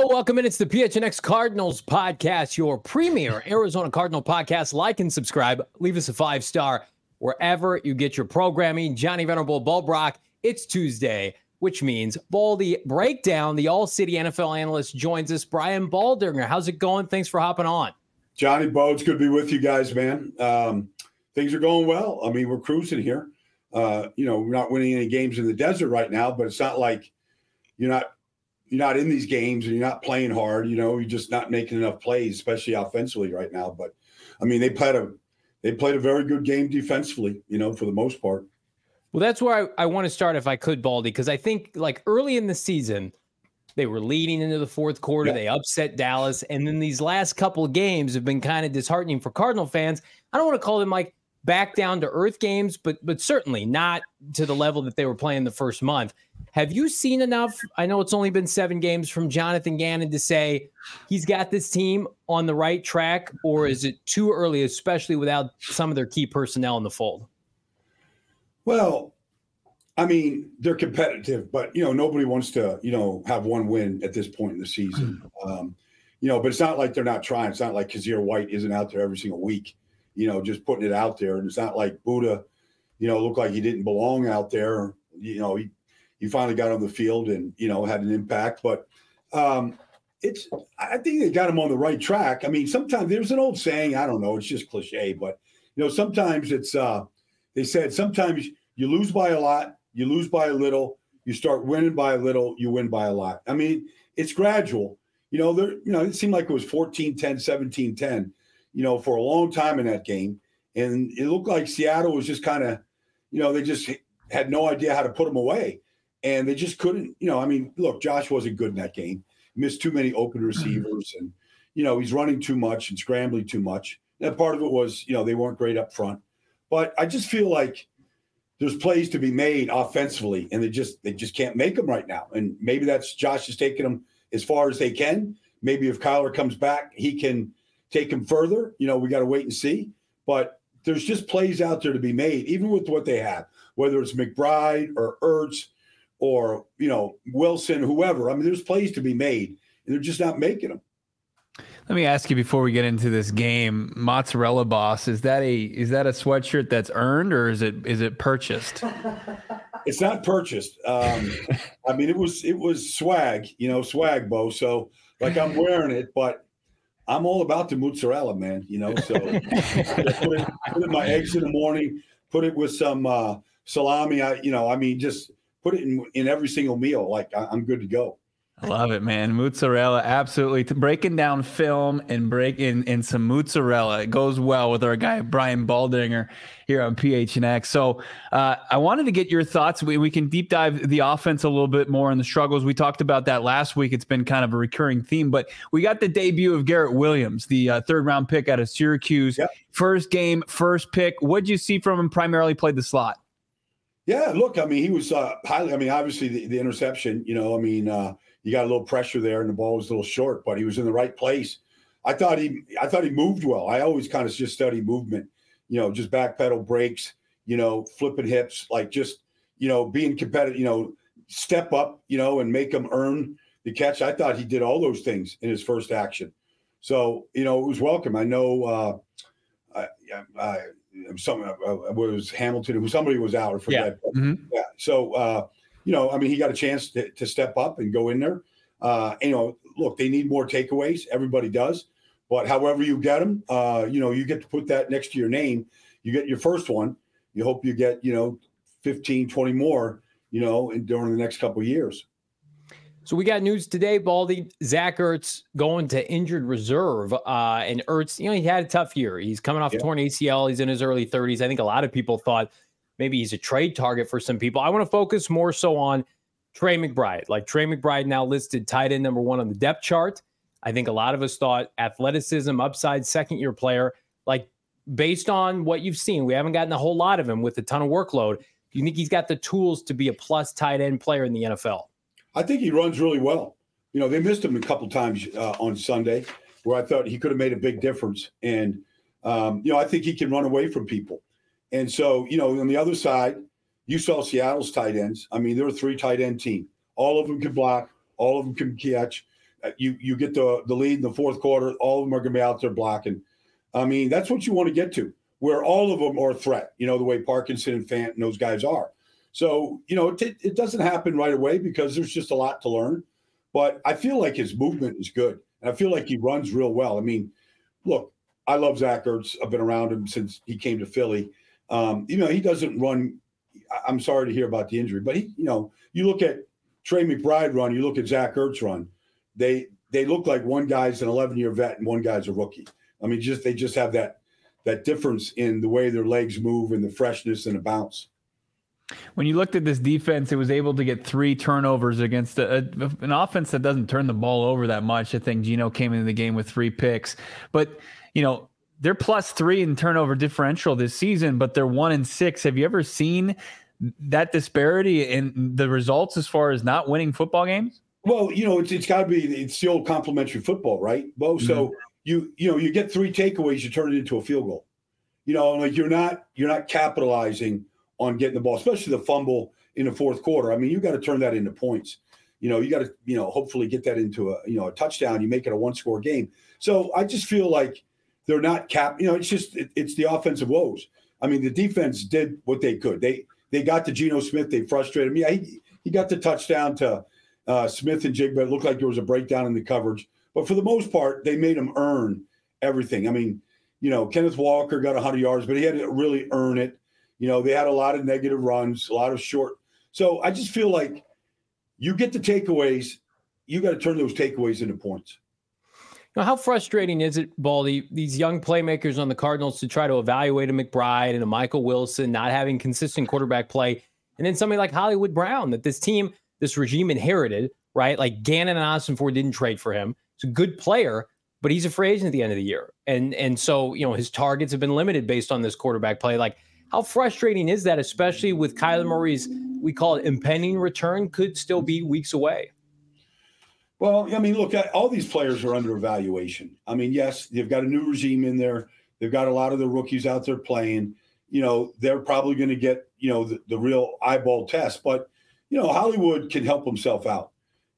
Hello, welcome in. It's the PHNX Cardinals podcast, your premier Arizona Cardinal podcast. Like and subscribe. Leave us a 5-star wherever you get your programming. Johnny Venerable Bulbrock. It's Tuesday, which means Baldy Breakdown, the All-City NFL analyst, joins us. Brian Baldinger, how's it going? Thanks for hopping on. Johnny Bo, it's good to be with you guys, man. Things are going well. I mean, we're cruising here. We're not winning any games in the desert right now, but it's not like you're not in these games and you're not playing hard. You're just not making enough plays, especially offensively right now. But I mean, they played a very good game defensively, for the most part. Well, that's where I want to start if I could, Baldy, because I think like early in the season, they were leading into the fourth quarter. Yeah. They upset Dallas. And then these last couple of games have been kind of disheartening for Cardinal fans. I don't want to call them like back down to earth games, but certainly not to the level that they were playing the first month. Have you seen enough? I know it's only been 7 games from Jonathan Gannon to say he's got this team on the right track, or is it too early, especially without some of their key personnel in the fold? Well, I mean, they're competitive, but, nobody wants to, have one win at this point in the season. But it's not like they're not trying. It's not like Kazir White isn't out there every single week, just putting it out there. And it's not like Buddha, looked like he didn't belong out there. He finally got on the field and, had an impact. But I think they got him on the right track. I mean, sometimes there's an old saying, I don't know, it's just cliche, but, sometimes it's they said sometimes you lose by a lot, you lose by a little, you start winning by a little, you win by a lot. I mean, it's gradual. It seemed like it was 14-10, 17-10, for a long time in that game. And it looked like Seattle was just kind of, they just had no idea how to put them away. And they just couldn't, look, Josh wasn't good in that game. He missed too many open receivers and, he's running too much and scrambling too much. And part of it was, they weren't great up front. But I just feel like there's plays to be made offensively, and they just can't make them right now. And maybe that's Josh is taking them as far as they can. Maybe if Kyler comes back, he can take them further. We got to wait and see. But there's just plays out there to be made, even with what they have, whether it's McBride or Ertz or, Wilson, whoever. I mean, there's plays to be made, and they're just not making them. Let me ask you before we get into this game, Mozzarella Boss, is that a sweatshirt that's earned or is it purchased? It's not purchased. I mean, it was swag, swag, Bo. So like I'm wearing it, but I'm all about the mozzarella, man. So put in my eggs in the morning, put it with some salami. Just put it in every single meal. Like I'm good to go. I love it, man. Mozzarella, absolutely. Breaking down film and breaking in some mozzarella. It goes well with our guy, Brian Baldinger, here on PHNX. So I wanted to get your thoughts. We can deep dive the offense a little bit more and the struggles. We talked about that last week. It's been kind of a recurring theme. But we got the debut of Garrett Williams, the third-round pick out of Syracuse. Yep. First game, first pick. What did you see from him? Primarily played the slot. Yeah, look, I mean, he was highly – obviously the interception, you got a little pressure there and the ball was a little short, but he was in the right place. I thought he moved well. I always kind of just study movement, just back pedal breaks, flipping hips, like just, being competitive, step up, and make them earn the catch. I thought he did all those things in his first action. So, it was welcome. I know was Hamilton, somebody was out, I forget. Yeah. Mm-hmm. Yeah. So, he got a chance to step up and go in there. Look, they need more takeaways. Everybody does. But however you get them, you get to put that next to your name. You get your first one. You hope you get, 15, 20 more, during the next couple of years. So we got news today, Baldy. Zach Ertz going to injured reserve. And Ertz, he had a tough year. He's coming off a torn ACL. He's in his early 30s. I think a lot of people thought maybe he's a trade target for some people. I want to focus more so on Trey McBride. Like Trey McBride now listed tight end number 1 on the depth chart. I think a lot of us thought athleticism, upside, second-year player. Like based on what you've seen, we haven't gotten a whole lot of him with a ton of workload. Do you think he's got the tools to be a plus tight end player in the NFL? I think he runs really well. They missed him a couple times on Sunday where I thought he could have made a big difference. And, I think he can run away from people. And so, on the other side, you saw Seattle's tight ends. I mean, they're a 3 tight end team. All of them can block. All of them can catch. you get the lead in the fourth quarter. All of them are going to be out there blocking. I mean, that's what you want to get to, where all of them are a threat, the way Parkinson and Fant and those guys are. So, it doesn't happen right away because there's just a lot to learn. But I feel like his movement is good. And I feel like he runs real well. I mean, look, I love Zach Ertz. I've been around him since he came to Philly. He doesn't run. I'm sorry to hear about the injury, but you look at Trey McBride run, you look at Zach Ertz run. They look like one guy's an 11-year vet and one guy's a rookie. I mean, they just have that difference in the way their legs move and the freshness and the bounce. When you looked at this defense, it was able to get 3 turnovers against an offense that doesn't turn the ball over that much. I think Geno came into the game with 3 picks. But, they're +3 in turnover differential this season, but they're 1-6. Have you ever seen that disparity in the results as far as not winning football games? Well, it's got to be – it's the old complimentary football, right, Bo? Mm-hmm. So, you get 3 takeaways, you turn it into a field goal. Like you're not capitalizing – on getting the ball, especially the fumble in the fourth quarter. I mean, you got to turn that into points. You got to, hopefully get that into a touchdown. You make it a 1-score game. So I just feel like they're not it's the offensive woes. I mean, the defense did what they could. They got to Geno Smith. They frustrated him. Yeah, he got the touchdown to Smith and Jigba. It looked like there was a breakdown in the coverage. But for the most part, they made him earn everything. I mean, Kenneth Walker got 100 yards, but he had to really earn it. They had a lot of negative runs, a lot of short. So I just feel like you get the takeaways, you got to turn those takeaways into points. How frustrating is it, Baldy, these young playmakers on the Cardinals to try to evaluate a McBride and a Michael Wilson, not having consistent quarterback play, and then somebody like Hollywood Brown that this regime inherited, right? Like Gannon and Austin Ford didn't trade for him. He's a good player, but he's a free agent at the end of the year. And so, his targets have been limited based on this quarterback play. Like, how frustrating is that, especially with Kyler Murray's, we call it impending return, could still be weeks away? Well, I mean, look, all these players are under evaluation. I mean, yes, they've got a new regime in there. They've got a lot of the rookies out there playing. They're probably going to get, the real eyeball test. But, Hollywood can help himself out.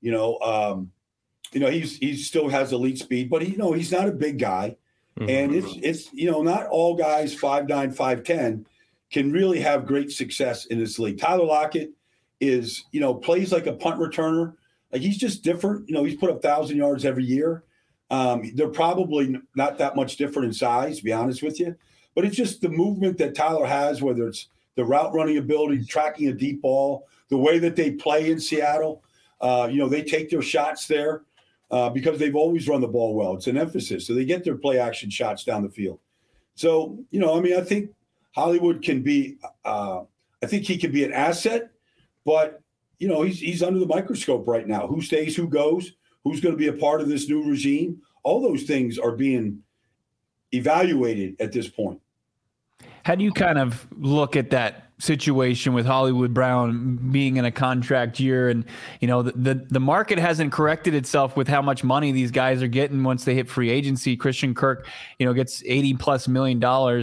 He still has elite speed, but he's not a big guy. Mm-hmm. And it's not all guys 5'9", 5'10" can really have great success in this league. Tyler Lockett is, plays like a punt returner. Like he's just different. He's put up 1,000 yards every year. They're probably not that much different in size, to be honest with you. But it's just the movement that Tyler has, whether it's the route running ability, tracking a deep ball, the way that they play in Seattle. They take their shots there because they've always run the ball well. It's an emphasis. So they get their play action shots down the field. So, I think Hollywood can be I think he can be an asset, but, he's under the microscope right now. Who stays, who goes, who's going to be a part of this new regime? All those things are being evaluated at this point. How do you kind of look at that situation with Hollywood Brown being in a contract year? And, the market hasn't corrected itself with how much money these guys are getting once they hit free agency. Christian Kirk, gets $80+ million,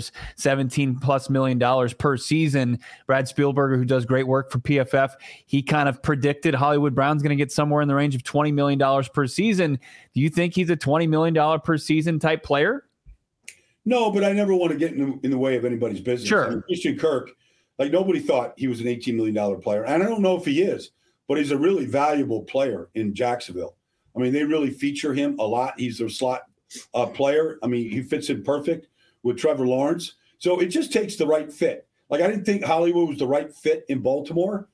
$17+ million per season. Brad Spielberger, who does great work for PFF, he kind of predicted Hollywood Brown's going to get somewhere in the range of $20 million per season. Do you think he's a $20 million per season type player? No, but I never want to get in the way of anybody's business. Sure. I mean, Christian Kirk, like nobody thought he was an $18 million player. And I don't know if he is, but he's a really valuable player in Jacksonville. I mean, they really feature him a lot. He's their slot player. I mean, he fits in perfect with Trevor Lawrence. So it just takes the right fit. Like I didn't think Hollywood was the right fit in Baltimore.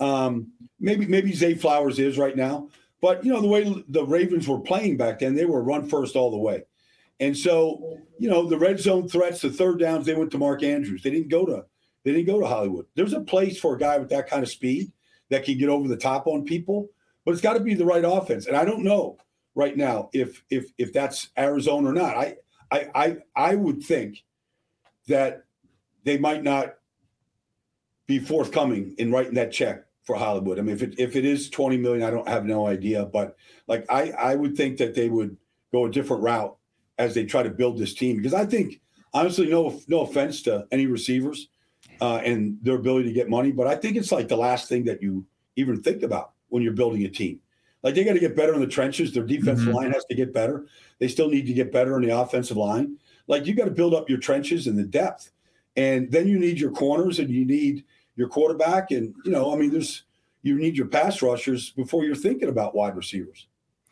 Maybe Zay Flowers is right now. But, the way the Ravens were playing back then, they were run first all the way. And so, the red zone threats, the third downs, they went to Mark Andrews. They didn't go to Hollywood. There's a place for a guy with that kind of speed that can get over the top on people, but it's got to be the right offense. And I don't know right now if that's Arizona or not. I would think that they might not be forthcoming in writing that check for Hollywood. I mean, if it is $20 million, I have no idea. But like I would think that they would go a different route as they try to build this team, because I think, honestly, no offense to any receivers and their ability to get money, but I think it's like the last thing that you even think about when you're building a team. Like they got to get better in the trenches. Their defensive line has to get better. They still need to get better in the offensive line. Like you got to build up your trenches and the depth. And then you need your corners and you need your quarterback. And, you need your pass rushers before you're thinking about wide receivers.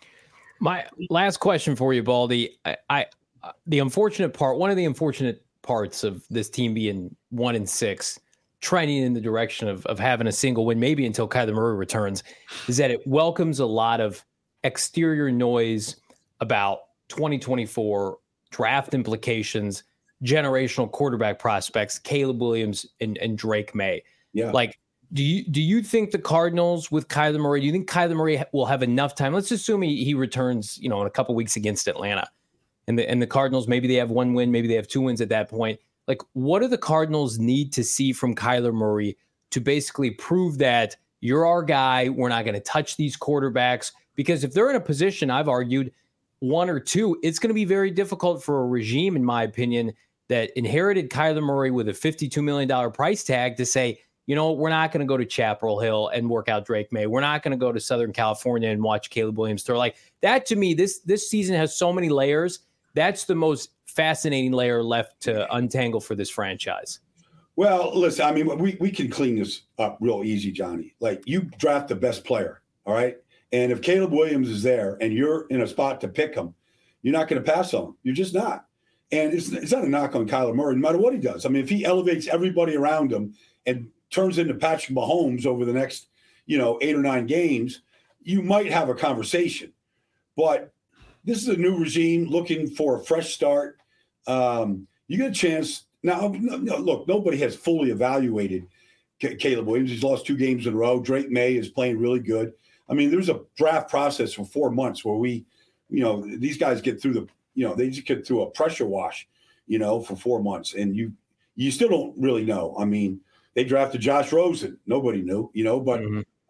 My last question for you, Baldy. The unfortunate part, one of the unfortunate parts of this team being 1-6, trending in the direction of having a single win, maybe until Kyler Murray returns, is that it welcomes a lot of exterior noise about 2024 draft implications, generational quarterback prospects, Caleb Williams and Drake May. Yeah. Like, do you think the Cardinals with Kyler Murray, do you think Kyler Murray will have enough time? Let's assume he returns, in a couple weeks against Atlanta. And the Cardinals, maybe they have 1 win, maybe they have 2 wins at that point. Like, what do the Cardinals need to see from Kyler Murray to basically prove that you're our guy, we're not going to touch these quarterbacks? Because if they're in a position, I've argued, 1 or 2, it's going to be very difficult for a regime, in my opinion, that inherited Kyler Murray with a $52 million price tag to say, we're not going to go to Chapel Hill and work out Drake May. We're not going to go to Southern California and watch Caleb Williams throw. Like that, to me, this season has so many layers. That's the most fascinating layer left to untangle for this franchise. Well, listen, I mean, we can clean this up real easy, Johnny. Like you draft the best player, all right? And if Caleb Williams is there and you're in a spot to pick him, you're not going to pass on him. You're just not. And it's not a knock on Kyler Murray, no matter what he does. I mean, if he elevates everybody around him and turns into Patrick Mahomes over the next, 8 or 9 games, you might have a conversation. But this is a new regime looking for a fresh start. You get a chance. Now, look, nobody has fully evaluated Caleb Williams. He's lost 2 games in a row. Drake May is playing really good. I mean, there's a draft process for 4 months where these guys get through they just get through a pressure wash, for 4 months. And you still don't really know. I mean, they drafted Josh Rosen. Nobody knew, but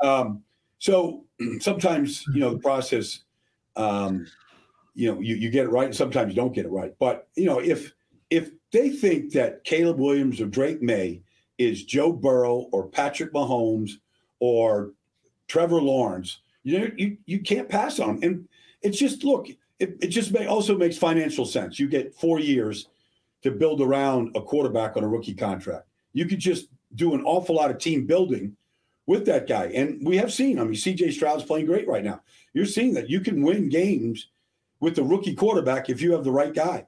so sometimes, the process, you get it right and sometimes you don't get it right. But, if they think that Caleb Williams or Drake May is Joe Burrow or Patrick Mahomes or Trevor Lawrence, you can't pass on them. And it's just, look, it just also makes financial sense. You get 4 years to build around a quarterback on a rookie contract. You could just do an awful lot of team building with that guy. And we have seen, C.J. Stroud's playing great right now. You're seeing that you can win games with the rookie quarterback if you have the right guy.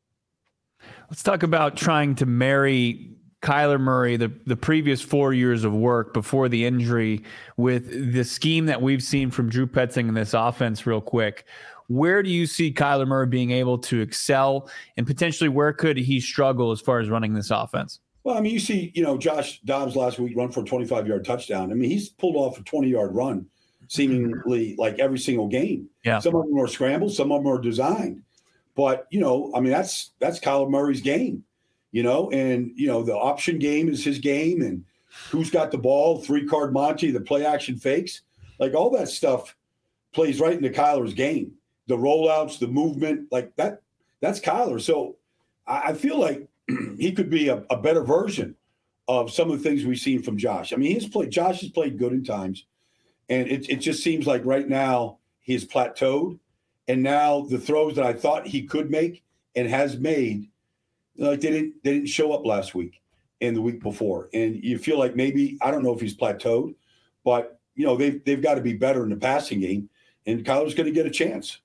Let's talk about trying to marry Kyler Murray, the previous 4 years of work before the injury, with the scheme that we've seen from Drew Petzing in this offense real quick. Where do you see Kyler Murray being able to excel, and potentially where could he struggle as far as running this offense? Well, you see, Josh Dobbs last week run for a 25-yard touchdown. He's pulled off a 20-yard run seemingly like every single game. Yeah. Some of them are scrambled, some of them are designed. But, that's Kyler Murray's game, and, the option game is his game, and who's got the ball, 3-card Monty, the play action fakes, like all that stuff plays right into Kyler's game. The rollouts, the movement, like that's Kyler. So I feel like he could be a better version of some of the things we've seen from Josh. Josh has played good in times, and it just seems like right now he's plateaued. And now the throws that I thought he could make and has made, like they didn't show up last week and the week before. And you feel like maybe, I don't know if he's plateaued, but they've got to be better in the passing game, and Kyler's going to get a chance.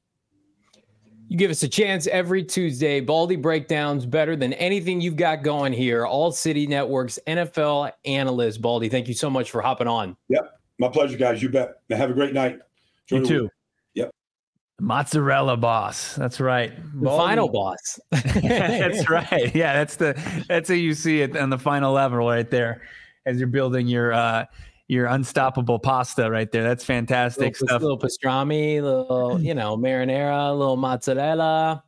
You give us a chance every Tuesday. Baldy breakdowns better than anything you've got going here. All City Network's NFL analyst. Baldy, thank you so much for hopping on. Yep. My pleasure, guys. You bet. Now have a great night. You too. Yep. Mozzarella boss. That's right. The final boss. That's right. Yeah, that's how you see it on the final level right there as you're building your unstoppable pasta right there. That's fantastic stuff. Little pastrami, little, marinara, little mozzarella,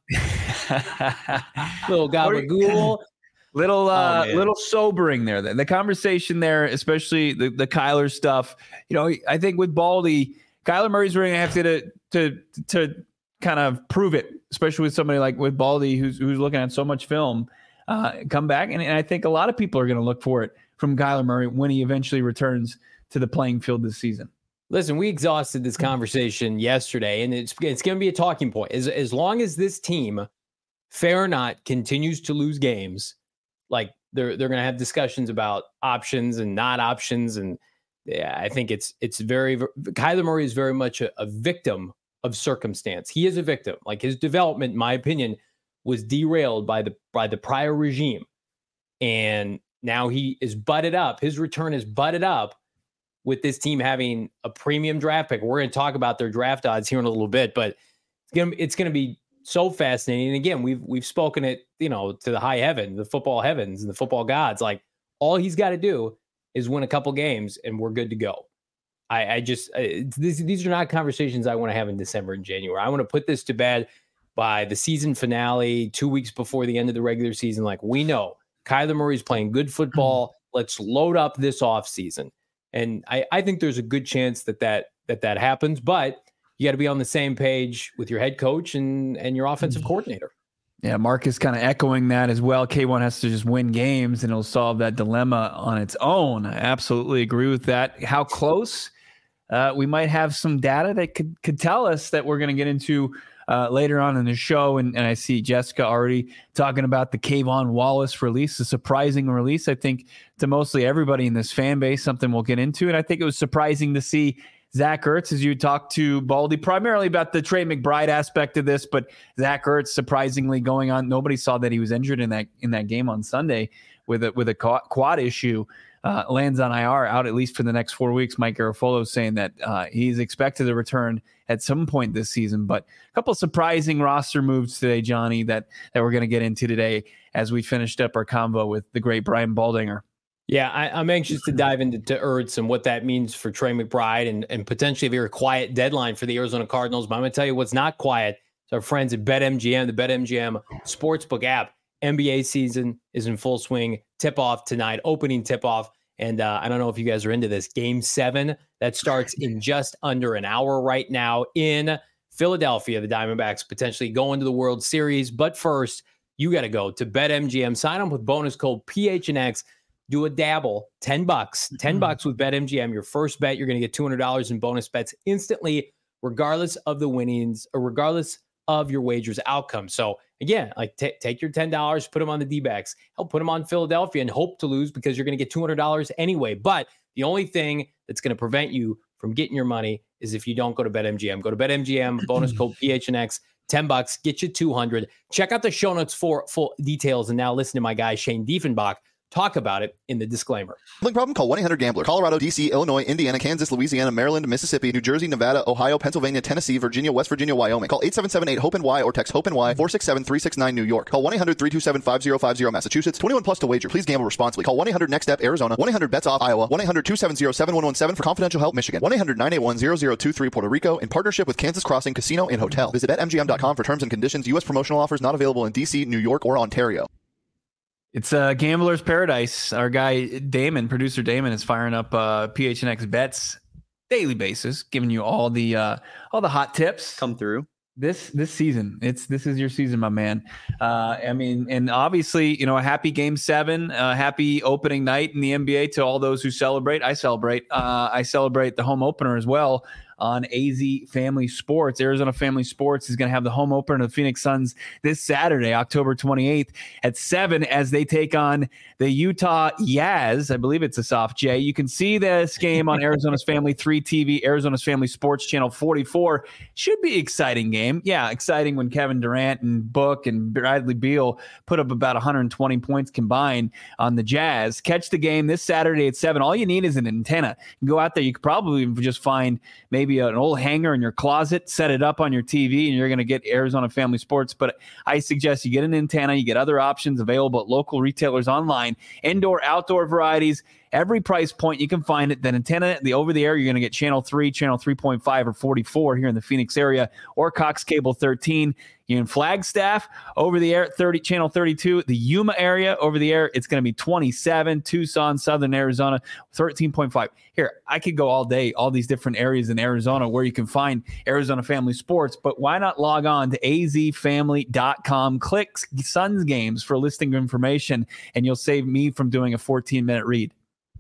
little gabagool. Little sobering there. The conversation there, especially the Kyler stuff. I think with Baldy, Kyler Murray's going to have to kind of prove it, especially with somebody like with Baldy, who's looking at so much film, come back. And I think a lot of people are going to look for it from Kyler Murray when he eventually returns to the playing field this season. Listen, we exhausted this conversation yesterday, and it's going to be a talking point. As long as this team, fair or not, continues to lose games, like they're going to have discussions about options and not options. And yeah, I think it's Kyler Murray is very much a victim of circumstance. He is a victim. Like, his development, in my opinion, was derailed by the prior regime. And now he is butted up. His return is butted up with this team having a premium draft pick. We're going to talk about their draft odds here in a little bit, but it's going to be so fascinating. And again, we've spoken it, to the high heaven, the football heavens and the football gods. Like, all he's got to do is win a couple games and we're good to go. These are not conversations I want to have in December and January. I want to put this to bed by the season finale, 2 weeks before the end of the regular season. Like, we know Kyler Murray's playing good football. Let's load up this offseason. And I think there's a good chance that happens, but you got to be on the same page with your head coach and your offensive coordinator. Yeah, Mark is kind of echoing that as well. K1 has to just win games and it'll solve that dilemma on its own. I absolutely agree with that. How close? We might have some data that could tell us that we're going to get into later on in the show. And I see Jessica already talking about the Kayvon Wallace release, a surprising release, I think, to mostly everybody in this fan base, something we'll get into. And I think it was surprising to see Zach Ertz, as you talked to Baldy, primarily about the Trey McBride aspect of this, but Zach Ertz surprisingly going on. Nobody saw that he was injured in that game on Sunday with a quad issue. Lands on IR, out at least for the next 4 weeks. Mike Garafolo saying that he's expected to return at some point this season. But a couple of surprising roster moves today, Johnny, that we're going to get into today as we finished up our convo with the great Brian Baldinger. Yeah, I'm anxious to dive into Ertz and what that means for Trey McBride and potentially a very quiet deadline for the Arizona Cardinals. But I'm going to tell you what's not quiet. It's our friends at BetMGM, the BetMGM Sportsbook app. NBA season is in full swing. Tip-off tonight, opening tip-off. And I don't know if you guys are into this. Game 7, that starts in just under an hour right now in Philadelphia. The Diamondbacks potentially going to the World Series. But first, you got to go to BetMGM. Sign up with bonus code PHNX. Do a dabble, $10. $10 with BetMGM. Your first bet, you're going to get $200 in bonus bets instantly, regardless of the winnings or regardless of your wager's outcome. So again, like take your $10, put them on the D-backs, help put them on Philadelphia and hope to lose because you're going to get $200 anyway. But the only thing that's going to prevent you from getting your money is if you don't go to BetMGM. Go to BetMGM, bonus code PHNX, $10, get you $200. Check out the show notes for full details. And now listen to my guy, Shane Diefenbach, talk about it in the disclaimer. Gambling problem? Call 1-800-GAMBLER. Colorado, D.C., Illinois, Indiana, Kansas, Louisiana, Maryland, Mississippi, New Jersey, Nevada, Ohio, Pennsylvania, Tennessee, Virginia, West Virginia, Wyoming. Call 877-8-HOPE-NY or text HOPE-NY 467-369 New York. Call 1-800-327-5050 Massachusetts. 21 plus to wager. Please gamble responsibly. Call 1-800-NEXT-STEP Arizona. 1-800-BETS-OFF Iowa. 1-800-270-7117 for confidential help Michigan. 1-800-981-0023 Puerto Rico in partnership with Kansas Crossing Casino and Hotel. Visit BetMGM.com for terms and conditions. U.S. promotional offers not available in D.C., New York, or Ontario. It's Gambler's Paradise. Our guy Damon, producer Damon, is firing up PHNX bets daily basis, giving you all the hot tips come through this season. This is your season, my man. I mean, and obviously, a happy Game 7, happy opening night in the NBA to all those who celebrate. I celebrate. I celebrate the home opener as well on AZ Family Sports. Arizona Family Sports is going to have the home opener of the Phoenix Suns this Saturday, October 28th at 7 as they take on the Utah Jazz. I believe it's a soft J. You can see this game on Arizona's Family 3 TV, Arizona's Family Sports Channel 44. Should be an exciting game. Yeah, exciting when Kevin Durant and Book and Bradley Beal put up about 120 points combined on the Jazz. Catch the game this Saturday at 7. All you need is an antenna. You can go out there. You could probably just find maybe an old hanger in your closet, set it up on your TV, and you're going to get Arizona Family Sports. But I suggest you get an antenna. You get other options available at local retailers online, indoor, outdoor varieties, every price point you can find it. That antenna, the over-the-air, you're going to get Channel 3, Channel 3.5, or 44 here in the Phoenix area, or Cox Cable 13. You're in Flagstaff, over the air, Channel 32. The Yuma area, over the air, it's going to be 27. Tucson, Southern Arizona, 13.5. Here, I could go all day, all these different areas in Arizona where you can find Arizona Family Sports, but why not log on to azfamily.com, click Suns games for listing information, and you'll save me from doing a 14-minute read.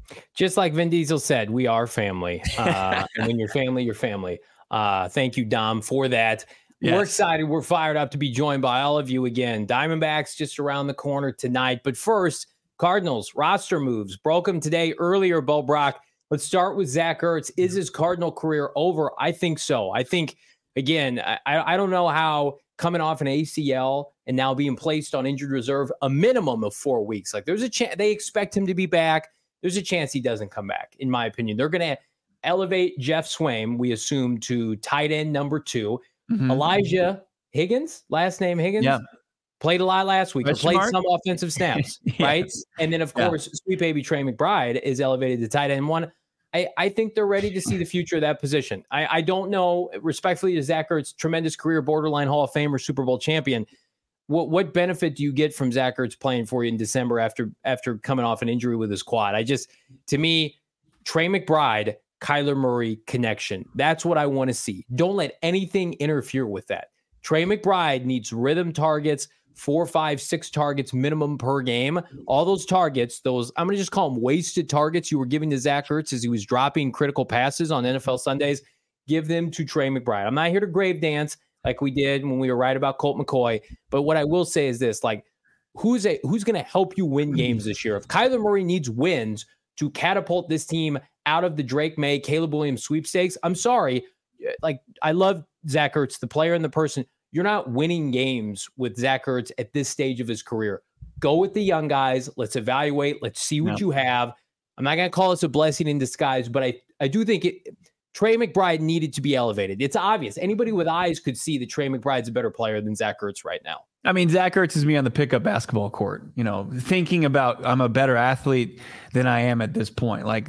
Just like Vin Diesel said, we are family. And when you're family, you're family. Thank you, Dom, for that. Yes. We're excited. We're fired up to be joined by all of you again. Diamondbacks just around the corner tonight. But first, Cardinals roster moves. Broke them today earlier, Bo Brock. Let's start with Zach Ertz. Is his Cardinal career over? I think so. I think, again, I don't know how coming off an ACL and now being placed on injured reserve a minimum of 4 weeks. Like, there's a chance they expect him to be back. There's a chance he doesn't come back, in my opinion. They're going to elevate Jeff Swaim, we assume, to tight end number 2. Mm-hmm. Elijah Higgins, last name Higgins, played a lot last week. Played some offensive snaps, right? And then, of course, sweet baby Trey McBride is elevated to tight end 1. I think they're ready to see the future of that position. I don't know, respectfully to Zach Ertz, tremendous career, borderline Hall of Famer, Super Bowl champion. What benefit do you get from Zach Ertz playing for you in December after coming off an injury with his quad? To me, Trey McBride, Kyler Murray connection. That's what I want to see. Don't let anything interfere with that. Trey McBride needs rhythm targets, 4, 5, 6 targets minimum per game. All those targets, I'm going to just call them wasted targets you were giving to Zach Ertz as he was dropping critical passes on NFL Sundays. Give them to Trey McBride. I'm not here to grave dance like we did when we were right about Colt McCoy. But what I will say is this, like, who's going to help you win games this year? If Kyler Murray needs wins to catapult this team out of the Drake May, Caleb Williams sweepstakes, I'm sorry. Like, I love Zach Ertz, the player and the person. You're not winning games with Zach Ertz at this stage of his career. Go with the young guys. Let's evaluate. Let's see what you have. I'm not going to call this a blessing in disguise, but I do think Trey McBride needed to be elevated. It's obvious. Anybody with eyes could see that Trey McBride's a better player than Zach Ertz right now. I mean, Zach Ertz is me on the pickup basketball court, thinking about I'm a better athlete than I am at this point. Like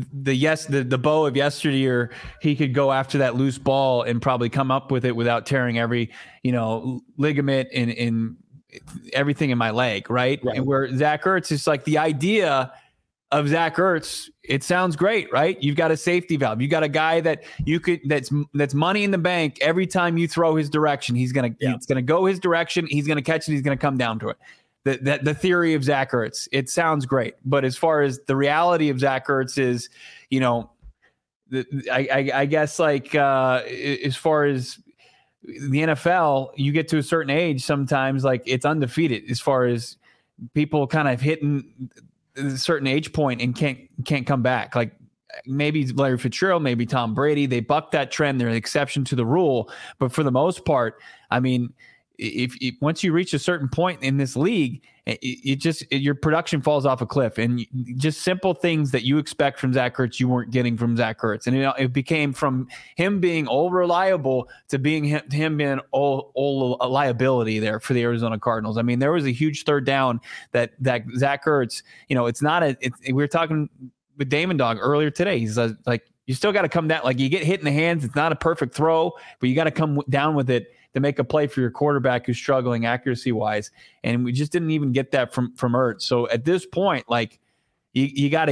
the Bo of yesteryear, he could go after that loose ball and probably come up with it without tearing every, ligament in everything in my leg. Right. And where Zach Ertz is like the idea of Zach Ertz, it sounds great, right? You've got a safety valve. You got a guy that that's money in the bank every time you throw his direction. He's gonna go his direction. He's gonna catch it. He's gonna come down to it. The theory of Zach Ertz, it sounds great, but as far as the reality of Zach Ertz is, I guess like as far as the NFL, you get to a certain age, sometimes like it's undefeated as far as people kind of hitting a certain age point and can't come back. Like maybe Larry Fitzgerald, maybe Tom Brady, they buck that trend. They're an exception to the rule. But for the most part, I mean, if once you reach a certain point in this league, your production falls off a cliff, and just simple things that you expect from Zach Ertz, you weren't getting from Zach Ertz. And it became from him being all reliable to being him being all a liability there for the Arizona Cardinals. I mean, there was a huge third down that Zach Ertz, we were talking with Damon Dog earlier today. He's like, you still got to come down. Like, you get hit in the hands. It's not a perfect throw, but you got to come down with it to make a play for your quarterback who's struggling accuracy wise. And we just didn't even get that from Ertz. So at this point, like you got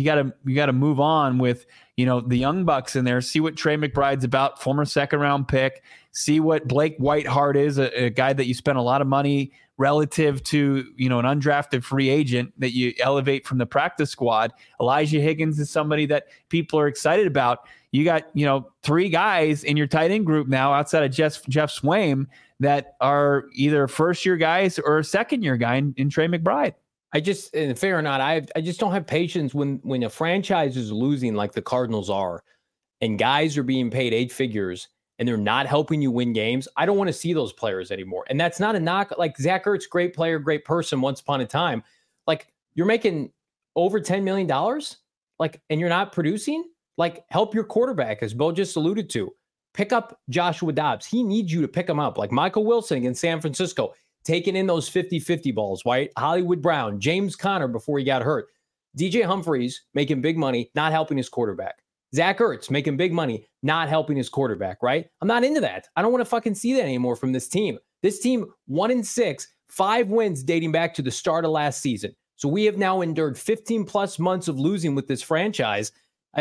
to move on with, the young bucks in there, see what Trey McBride's about, former 2nd round pick, see what Blake Whiteheart is, a guy that you spent a lot of money relative to, an undrafted free agent that you elevate from the practice squad. Elijah Higgins is somebody that people are excited about. You got, 3 guys in your tight end group now outside of Jeff Swaim that are either first-year guys or a second-year guy in Trey McBride. And fair or not, I just don't have patience when a franchise is losing like the Cardinals are, and guys are being paid 8 figures and they're not helping you win games. I don't want to see those players anymore. And that's not a knock. Like, Zach Ertz, great player, great person once upon a time. Like, you're making over $10 million, like, and you're not producing. Like, help your quarterback, as Bo just alluded to. Pick up Joshua Dobbs. He needs you to pick him up. Like Michael Wilson in San Francisco, taking in those 50-50 balls, right? Hollywood Brown, James Conner before he got hurt. DJ Humphries making big money, not helping his quarterback. Zach Ertz making big money, not helping his quarterback, right? I'm not into that. I don't want to fucking see that anymore from this team. This team, 1-6, 5 wins dating back to the start of last season. So we have now endured 15+ months of losing with this franchise.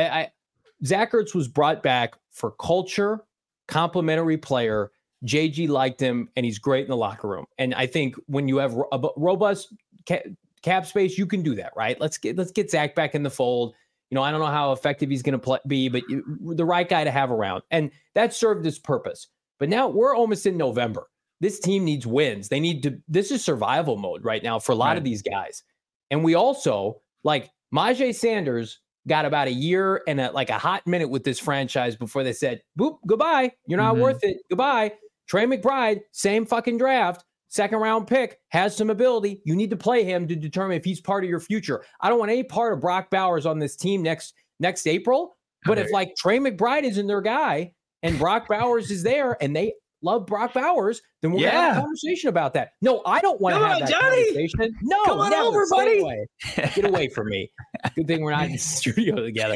Zach Ertz was brought back for culture, complimentary player. JG liked him, and he's great in the locker room. And I think when you have a robust cap space, you can do that, right? Let's get Zach back in the fold. I don't know how effective he's going to be, but the right guy to have around. And that served its purpose. But now we're almost in November. This team needs wins. This is survival mode right now for a lot of these guys. And we also, like, Myjai Sanders got about a year and a hot minute with this franchise before they said, boop, goodbye. You're not worth it. Goodbye. Trey McBride, same fucking draft, second round pick, has some ability. You need to play him to determine if he's part of your future. I don't want any part of Brock Bowers on this team next April. But if like Trey McBride isn't their guy and Brock Bowers is there and they love Brock Bowers, then we're going to have a conversation about that. No, I don't want to have that conversation. No, come on over, buddy. Get away from me. Good thing we're not in the studio together.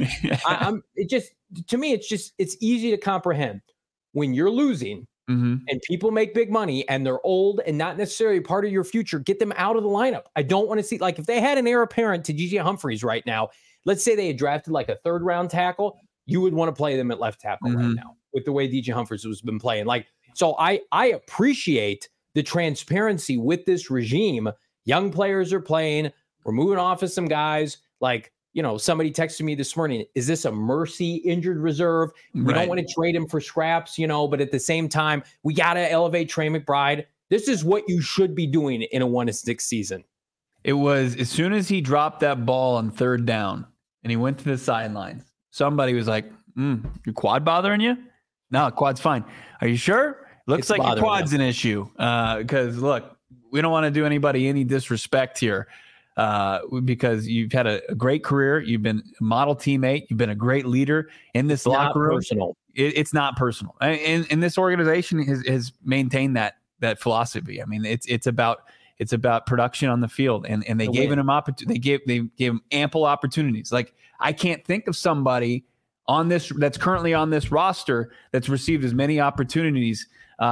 It's easy to comprehend when you're losing and people make big money and they're old and not necessarily part of your future. Get them out of the lineup. I don't want to see, like, if they had an heir apparent to DJ Humphries right now, let's say they had drafted like a third round tackle, you would want to play them at left tackle right now with the way DJ Humphries has been playing. Like, so I appreciate the transparency with this regime. Young players are playing. We're moving off of some guys. Like, somebody texted me this morning, is this a mercy injured reserve? We don't want to trade him for scraps, but at the same time, we got to elevate Trey McBride. This is what you should be doing in a 1-6 season. It was as soon as he dropped that ball on third down and he went to the sidelines, somebody was like, your quad bothering you? No, quad's fine. Are you sure? Looks like your quad's an issue. Because look, we don't want to do anybody any disrespect here. Because you've had a great career. You've been a model teammate. You've been a great leader in this locker room. Personal. It's not personal. And this organization has maintained that philosophy. I mean, it's about production on the field, and they gave him they gave him ample opportunities. Like, I can't think of somebody that's currently on this roster that's received as many opportunities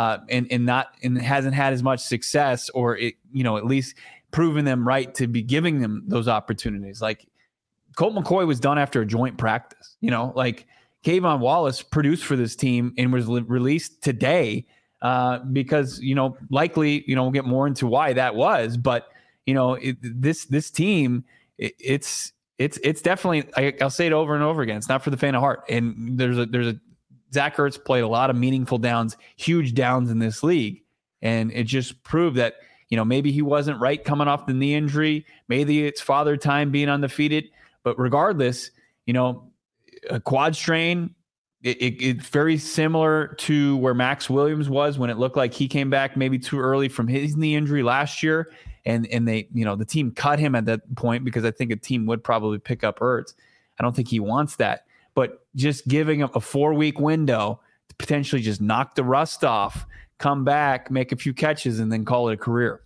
and hasn't had as much success, or at least proven them right to be giving them those opportunities. Like, Colt McCoy was done after a joint practice. Like, Kayvon Wallace produced for this team and was released today because likely we'll get more into why that was, but this team, it's definitely, I'll say it over and over again, it's not for the faint of heart. And there's a Zach Ertz played a lot of meaningful downs, huge downs in this league, and it just proved that maybe he wasn't right coming off the knee injury. Maybe it's father time being undefeated. But regardless, a quad strain, it's very similar to where Max Williams was when it looked like he came back maybe too early from his knee injury last year. And they, the team cut him at that point because I think a team would probably pick up Ertz. I don't think he wants that. But just giving him a 4-week window to potentially just knock the rust off, come back, make a few catches, and then call it a career.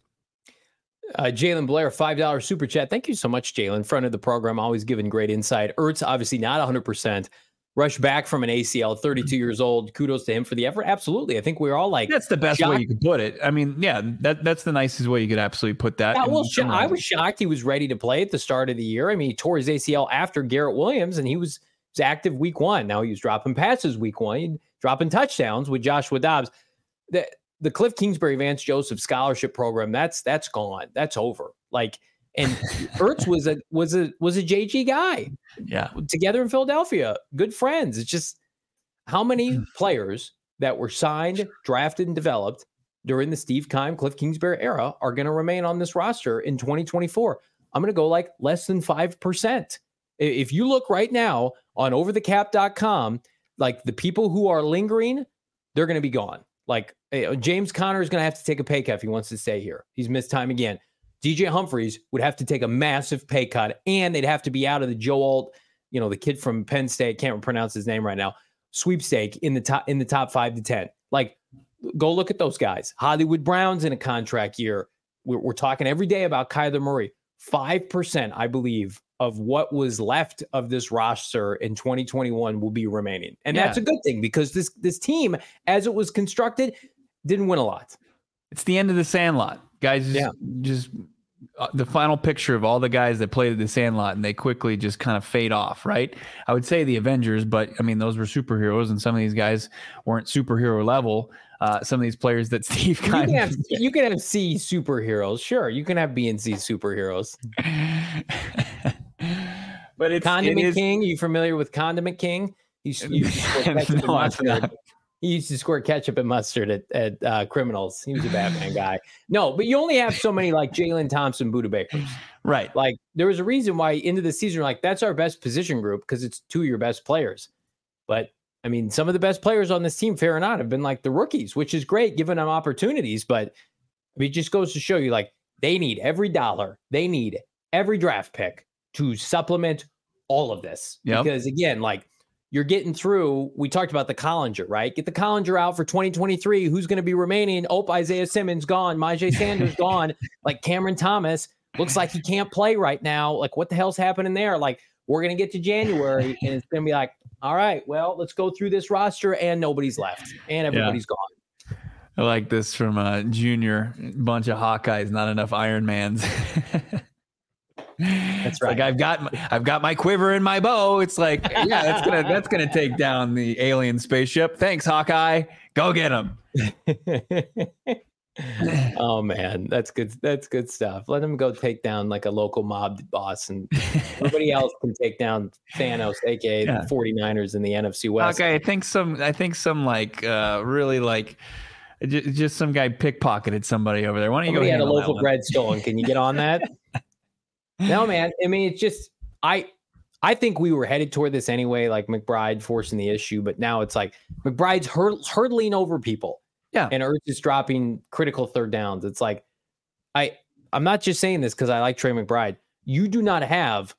Jalen Blair, $5 super chat. Thank you so much, Jalen. Front of the program, always giving great insight. Ertz, obviously not 100%. Rushed back from an ACL, 32 years old. Kudos to him for the effort. Absolutely. I think we're all like... That's the best way you could put it. I mean, yeah, that's the nicest way you could absolutely put that. Yeah, well, I was shocked he was ready to play at the start of the year. I mean, he tore his ACL after Garrett Williams, and he was active week 1. Now he was dropping passes week 1, dropping touchdowns with Joshua Dobbs. The Cliff Kingsbury Vance Joseph scholarship program, that's gone. That's over. Like, and Ertz was a JG guy. Yeah. Together in Philadelphia. Good friends. It's just how many players that were signed, drafted, and developed during the Steve Keim, Cliff Kingsbury era are going to remain on this roster in 2024. I'm going to go like less than 5%. If you look right now on overthecap.com, like the people who are lingering, they're going to be gone. Like James Conner is going to have to take a pay cut if he wants to stay here. He's missed time again. DJ Humphries would have to take a massive pay cut, and they'd have to be out of the Joe Alt, the kid from Penn State, can't pronounce his name right now, sweepstake in the top 5 to 10. Like, go look at those guys. Hollywood Brown's in a contract year. We're talking every day about Kyler Murray. 5%, I believe, of what was left of this roster in 2021 will be remaining. And that's a good thing because this team, as it was constructed, didn't win a lot. It's the end of the Sandlot. Guys, just the final picture of all the guys that played at the Sandlot, and they quickly just kind of fade off, right? I would say the Avengers, but I mean, those were superheroes, and some of these guys weren't superhero level. some of these players that Steve you can have C superheroes. Sure, you can have B and C superheroes. But it's Condiment King. You familiar with Condiment King? He used to score ketchup and mustard at Criminals. He was a Batman guy. No, but you only have so many like Jalen Thompson, Buda Bakers. Right. Like there was a reason why into the season, like that's our best position group because it's two of your best players. But I mean, some of the best players on this team, fair or not, have been like the rookies, which is great, giving them opportunities. But I mean, it just goes to show you, like, they need every dollar. They need every draft pick to supplement all of this. Yep. Because, again, like, you're getting through, we talked about the Collinger, right? Get the Collinger out for 2023. Who's going to be remaining? Oh, Isaiah Simmons gone. Myjai Sanders gone. Like, Cameron Thomas looks like he can't play right now. Like, what the hell's happening there? Like, we're going to get to January, and it's going to be like, all right, well, let's go through this roster, and nobody's left, and everybody's gone. I like this from Junior. Bunch of Hawkeyes, not enough Iron Mans. That's right. Like I've got my quiver in my bow. It's like, yeah, that's gonna take down the alien spaceship. Thanks, Hawkeye. Go get him. Oh man, that's good. That's good stuff. Let him go take down like a local mob boss, and everybody else can take down Thanos, aka the 49ers in the NFC West. Okay, I think some like really like just some guy pickpocketed somebody over there. Why don't you go? Somebody had a loaf of bread stolen. Can you get on that? No, man. I mean, it's just I think we were headed toward this anyway, like McBride forcing the issue, but now it's like McBride's hurdling over people. Yeah. And Ertz is dropping critical third downs. It's like, I'm not just saying this because I like Trey McBride. You do not have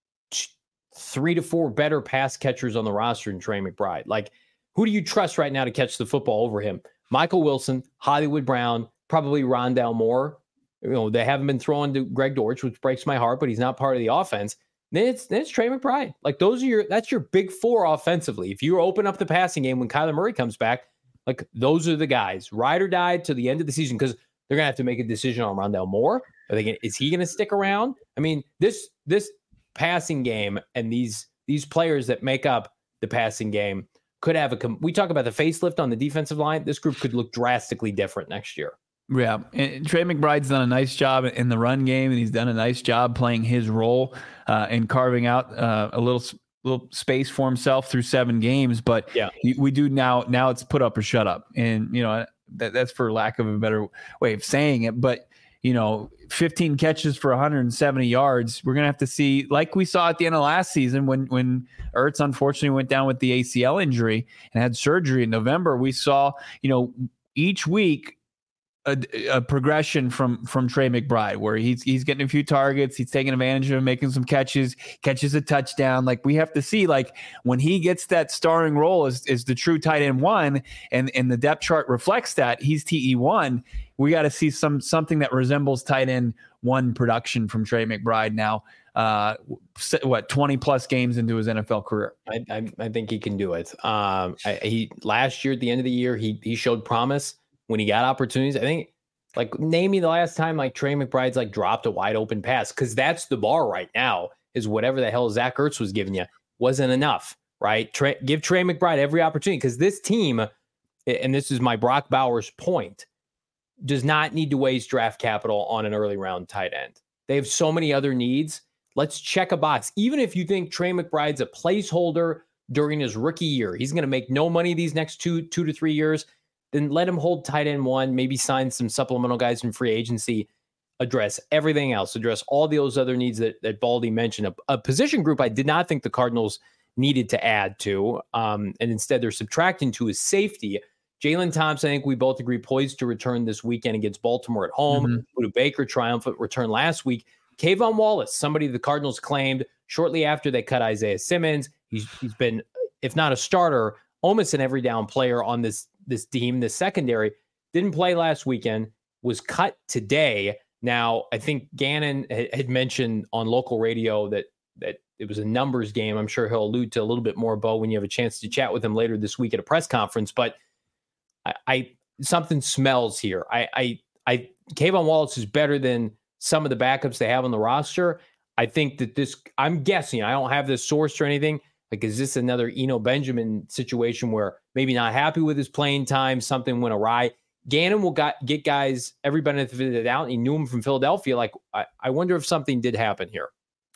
3 to 4 better pass catchers on the roster than Trey McBride. Like, who do you trust right now to catch the football over him? Michael Wilson, Hollywood Brown, probably Rondale Moore. You know, they haven't been throwing to Greg Dortch, which breaks my heart, but he's not part of the offense. Then it's Trey McBride. Like, that's your big four offensively. If you open up the passing game when Kyler Murray comes back, like, those are the guys, ride or die to the end of the season, because they're going to have to make a decision on Rondale Moore. Is he going to stick around? I mean, this passing game and these players that make up the passing game could have we talk about the facelift on the defensive line. This group could look drastically different next year. Yeah. And Trey McBride's done a nice job in the run game, and he's done a nice job playing his role and carving out a little space for himself through 7 games. But we do now it's put up or shut up. And, you know, that's for lack of a better way of saying it. But, you know, 15 catches for 170 yards. We're going to have to see, like we saw at the end of last season when Ertz unfortunately went down with the ACL injury and had surgery in November. We saw, you know, each week a progression from Trey McBride, where he's getting a few targets, he's taking advantage of making some catches a touchdown. Like, we have to see, like, when he gets that starring role as the true tight end 1, and the depth chart reflects that he's TE1. We got to see something that resembles tight end 1 production from Trey McBride now. 20 plus games into his NFL career. I think he can do it. He last year at the end of the year he showed promise when he got opportunities. I think, like, name me the last time like Trey McBride's like dropped a wide open pass, because that's the bar right now, is whatever the hell Zach Ertz was giving you wasn't enough, right? Give Trey McBride every opportunity, because this team, and this is my Brock Bowers point, does not need to waste draft capital on an early round tight end. They have so many other needs. Let's check a box. Even if you think Trey McBride's a placeholder during his rookie year, he's going to make no money these next 2 to 3 years, then let him hold tight end 1, maybe sign some supplemental guys in free agency, address everything else, address all those other needs that Baldy mentioned. A position group I did not think the Cardinals needed to add to, and instead they're subtracting to, is safety. Jalen Thompson, I think we both agree, poised to return this weekend against Baltimore at home. Buda Baker, triumphant return last week. Kayvon Wallace, somebody the Cardinals claimed shortly after they cut Isaiah Simmons. He's been, if not a starter, almost an every down player on this team. The secondary didn't play last weekend, was cut today. Now, I think Gannon had mentioned on local radio that it was a numbers game. I'm sure he'll allude to a little bit more, Bo, when you have a chance to chat with him later this week at a press conference. But I something smells here. Kayvon Wallace is better than some of the backups they have on the roster. I think that I'm guessing, I don't have this sourced or anything, Like, is this another Eno Benjamin situation where maybe not happy with his playing time, something went awry? Gannon will get guys every benefit of the doubt. He knew him from Philadelphia. Like, I wonder if something did happen here.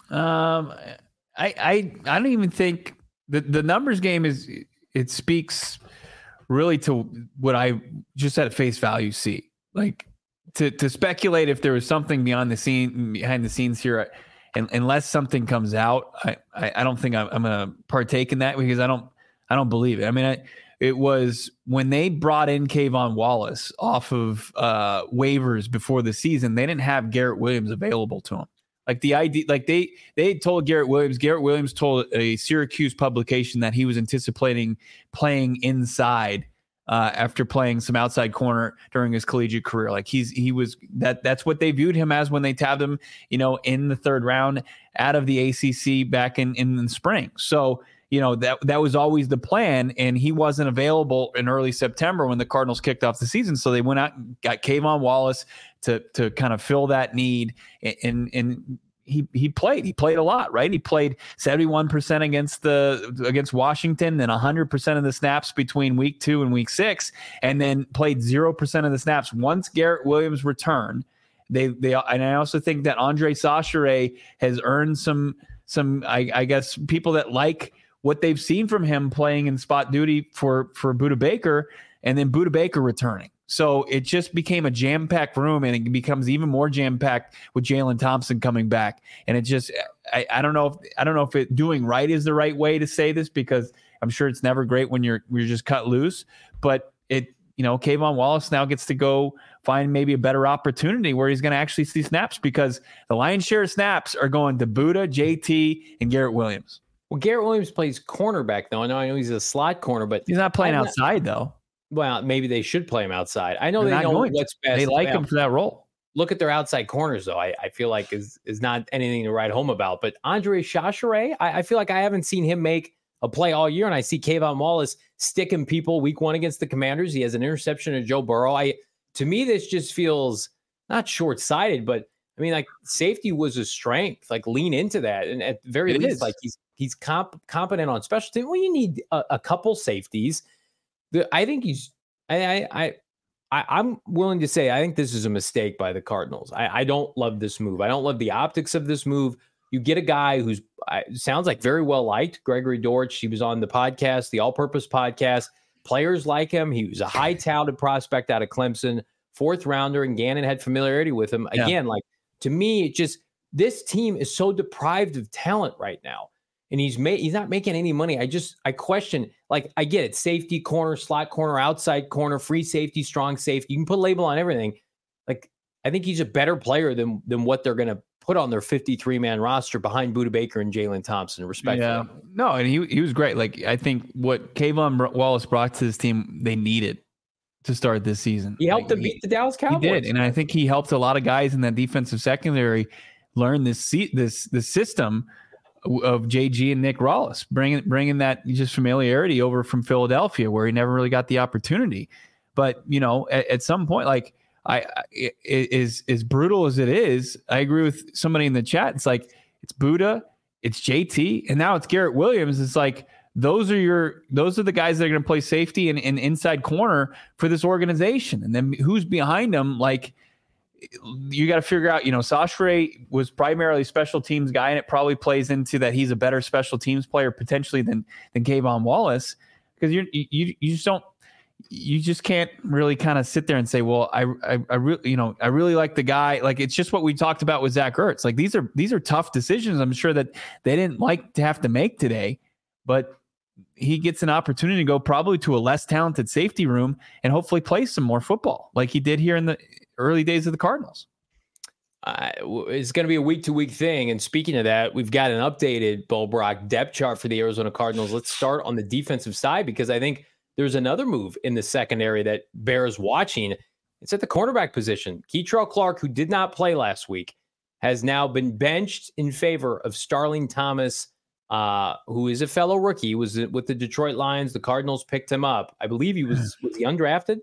I don't even think the numbers game it speaks really to what I just at face value see. Like to speculate if there was something behind the scenes here, unless something comes out, I don't think I'm going to partake in that because I don't believe it. I mean, it was when they brought in Kayvon Wallace off of waivers before the season, they didn't have Garrett Williams available to him. Like the idea, like they told Garrett Williams told a Syracuse publication that he was anticipating playing inside after playing some outside corner during his collegiate career. Like that's what they viewed him as when they tabbed him, in the third round out of the ACC back in the spring. So, that was always the plan, and he wasn't available in early September when the Cardinals kicked off the season. So they went out and got Kayvon Wallace to kind of fill that need, and he played a lot, right? He played 71% against Washington, then 100% of the snaps between week 2 and week 6, and then played 0% of the snaps once Garrett Williams returned. They and I also think that Andre Chachere has earned some I guess people that like what they've seen from him playing in spot duty for Budda Baker, and then Budda Baker returning. So it just became a jam-packed room, and it becomes even more jam-packed with Jalen Thompson coming back. And it just, I don't know if it doing right is the right way to say this, because I'm sure it's never great when you're just cut loose. But Kayvon Wallace now gets to go find maybe a better opportunity where he's going to actually see snaps, because the lion's share of snaps are going to Budda, JT, and Garrett Williams. Well, Garrett Williams plays cornerback, though. I know he's a slot corner, but he's not playing outside, though. Well, maybe they should play him outside. I know they know what's best. They like him for that role. Look at their outside corners, though. I feel like is not anything to write home about. But Andre Chachere, I feel like I haven't seen him make a play all year, and I see Kayvon Wallace sticking people week 1 against the Commanders. He has an interception of Joe Burrow. To me, this just feels not short-sighted, but I mean, like, safety was a strength. Like, lean into that, and at the very least, like he's competent on special teams. Well, you need a couple safeties. I think I'm willing to say I think this is a mistake by the Cardinals. I don't love this move. I don't love the optics of this move. You get a guy who's sounds like very well liked, Gregory Dortch. He was on the podcast, the All-Purpose Podcast. Players like him. He was a high-touted prospect out of Clemson, 4th rounder, and Gannon had familiarity with him. Again, like, to me, this team is so deprived of talent right now. And he's not making any money. I question, like, I get it. Safety, corner, slot corner, outside corner, free safety, strong safety. You can put a label on everything. Like, I think he's a better player than what they're going to put on their 53-man roster behind Budda Baker and Jalen Thompson, respectively. Yeah. No, and he was great. Like, I think what Kayvon Wallace brought to this team, they needed to start this season. He helped them beat the Dallas Cowboys. He did, and I think he helped a lot of guys in that defensive secondary learn this system of JG and Nick Rollis, bringing that just familiarity over from Philadelphia, where he never really got the opportunity. But at some point, like, as brutal as it is, I agree with somebody in the chat. It's like, it's Budda, it's JT, and now it's Garrett Williams. It's like, those are the guys that are going to play safety and inside corner for this organization. And then who's behind them? Like, you got to figure out, Chachere was primarily special teams guy, and it probably plays into that he's a better special teams player potentially than Kayvon Wallace, because you just can't really kind of sit there and say, well, I really like the guy. Like, it's just what we talked about with Zach Ertz. Like, these are tough decisions. I'm sure that they didn't like to have to make today, but he gets an opportunity to go probably to a less talented safety room and hopefully play some more football like he did here in the early days of the Cardinals. It's going to be a week-to-week thing. And speaking of that, we've got an updated Bo Brock depth chart for the Arizona Cardinals. Let's start on the defensive side, because I think there's another move in the secondary that bears watching. It's at the cornerback position. Keitrell Clark, who did not play last week, has now been benched in favor of Starling Thomas, who is a fellow rookie. He was with the Detroit Lions. The Cardinals picked him up. I believe he was he undrafted?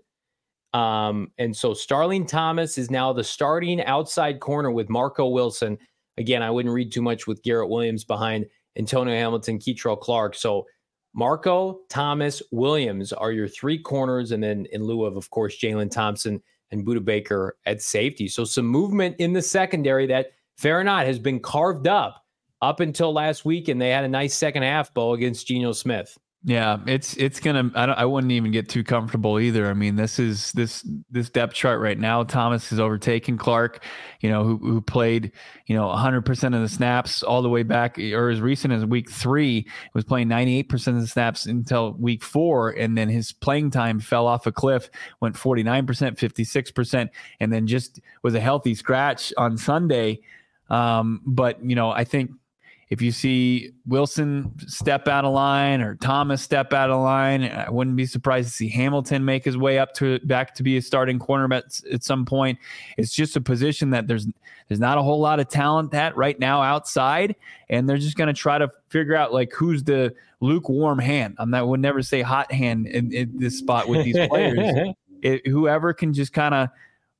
And so Starling Thomas is now the starting outside corner with Marco Wilson. Again, I wouldn't read too much with Garrett Williams behind. Antonio Hamilton, Keitrell Clark. So Marco, Thomas, Williams are your three corners, and then in lieu of course, Jalen Thompson and Budda Baker at safety. So some movement in the secondary that, fair or not, has been carved up until last week, and they had a nice second half, Bo, against Geno Smith. Yeah, it's gonna. I wouldn't even get too comfortable either. I mean, this depth chart right now. Thomas has overtaken Clark, who played 100% of the snaps all the way back, or as recent as week 3, was playing 98% of the snaps until week 4, and then his playing time fell off a cliff, went 49%, 56%, and then just was a healthy scratch on Sunday. But I think, if you see Wilson step out of line or Thomas step out of line, I wouldn't be surprised to see Hamilton make his way back to be a starting cornerback at some point. It's just a position that there's not a whole lot of talent at right now outside, and they're just going to try to figure out like who's the lukewarm hand. I would never say hot hand in this spot with these players. Whoever can just kind of.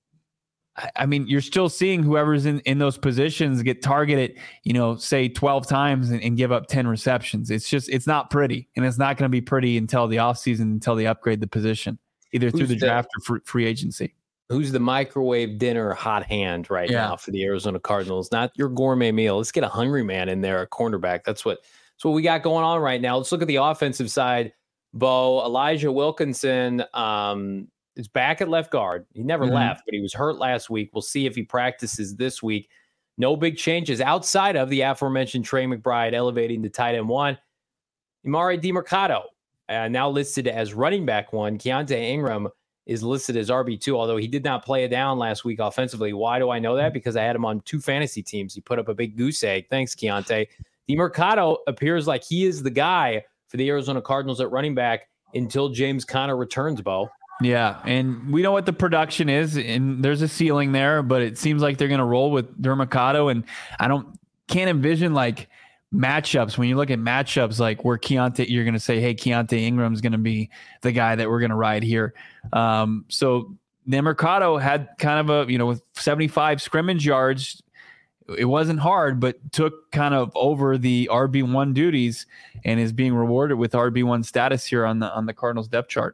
I mean, you're still seeing whoever's in those positions get targeted, say 12 times and give up 10 receptions. It's not pretty, and it's not going to be pretty until the offseason, until they upgrade the position, either through the draft or free agency. Who's the microwave dinner hot hand now for the Arizona Cardinals? Not your gourmet meal. Let's get a hungry man in there, a cornerback. That's what we got going on right now. Let's look at the offensive side. Bo, Elijah Wilkinson, is back at left guard. He never left, but he was hurt last week. We'll see if he practices this week. No big changes outside of the aforementioned Trey McBride elevating to tight end 1. Emari Demercado, now listed as running back 1. Keaontay Ingram is listed as RB2, although he did not play it down last week offensively. Why do I know that? Because I had him on 2 fantasy teams. He put up a big goose egg. Thanks, Keaontay. Demercado appears like he is the guy for the Arizona Cardinals at running back until James Conner returns, Bo. Yeah, and we know what the production is, and there's a ceiling there, but it seems like they're going to roll with Demercado, and can't envision like matchups. When you look at matchups, like where you're going to say, hey, Keaontay Ingram's going to be the guy that we're going to ride here. So Demercado had kind of with 75 scrimmage yards. It wasn't hard, but took kind of over the RB1 duties and is being rewarded with RB1 status here on the Cardinals depth chart.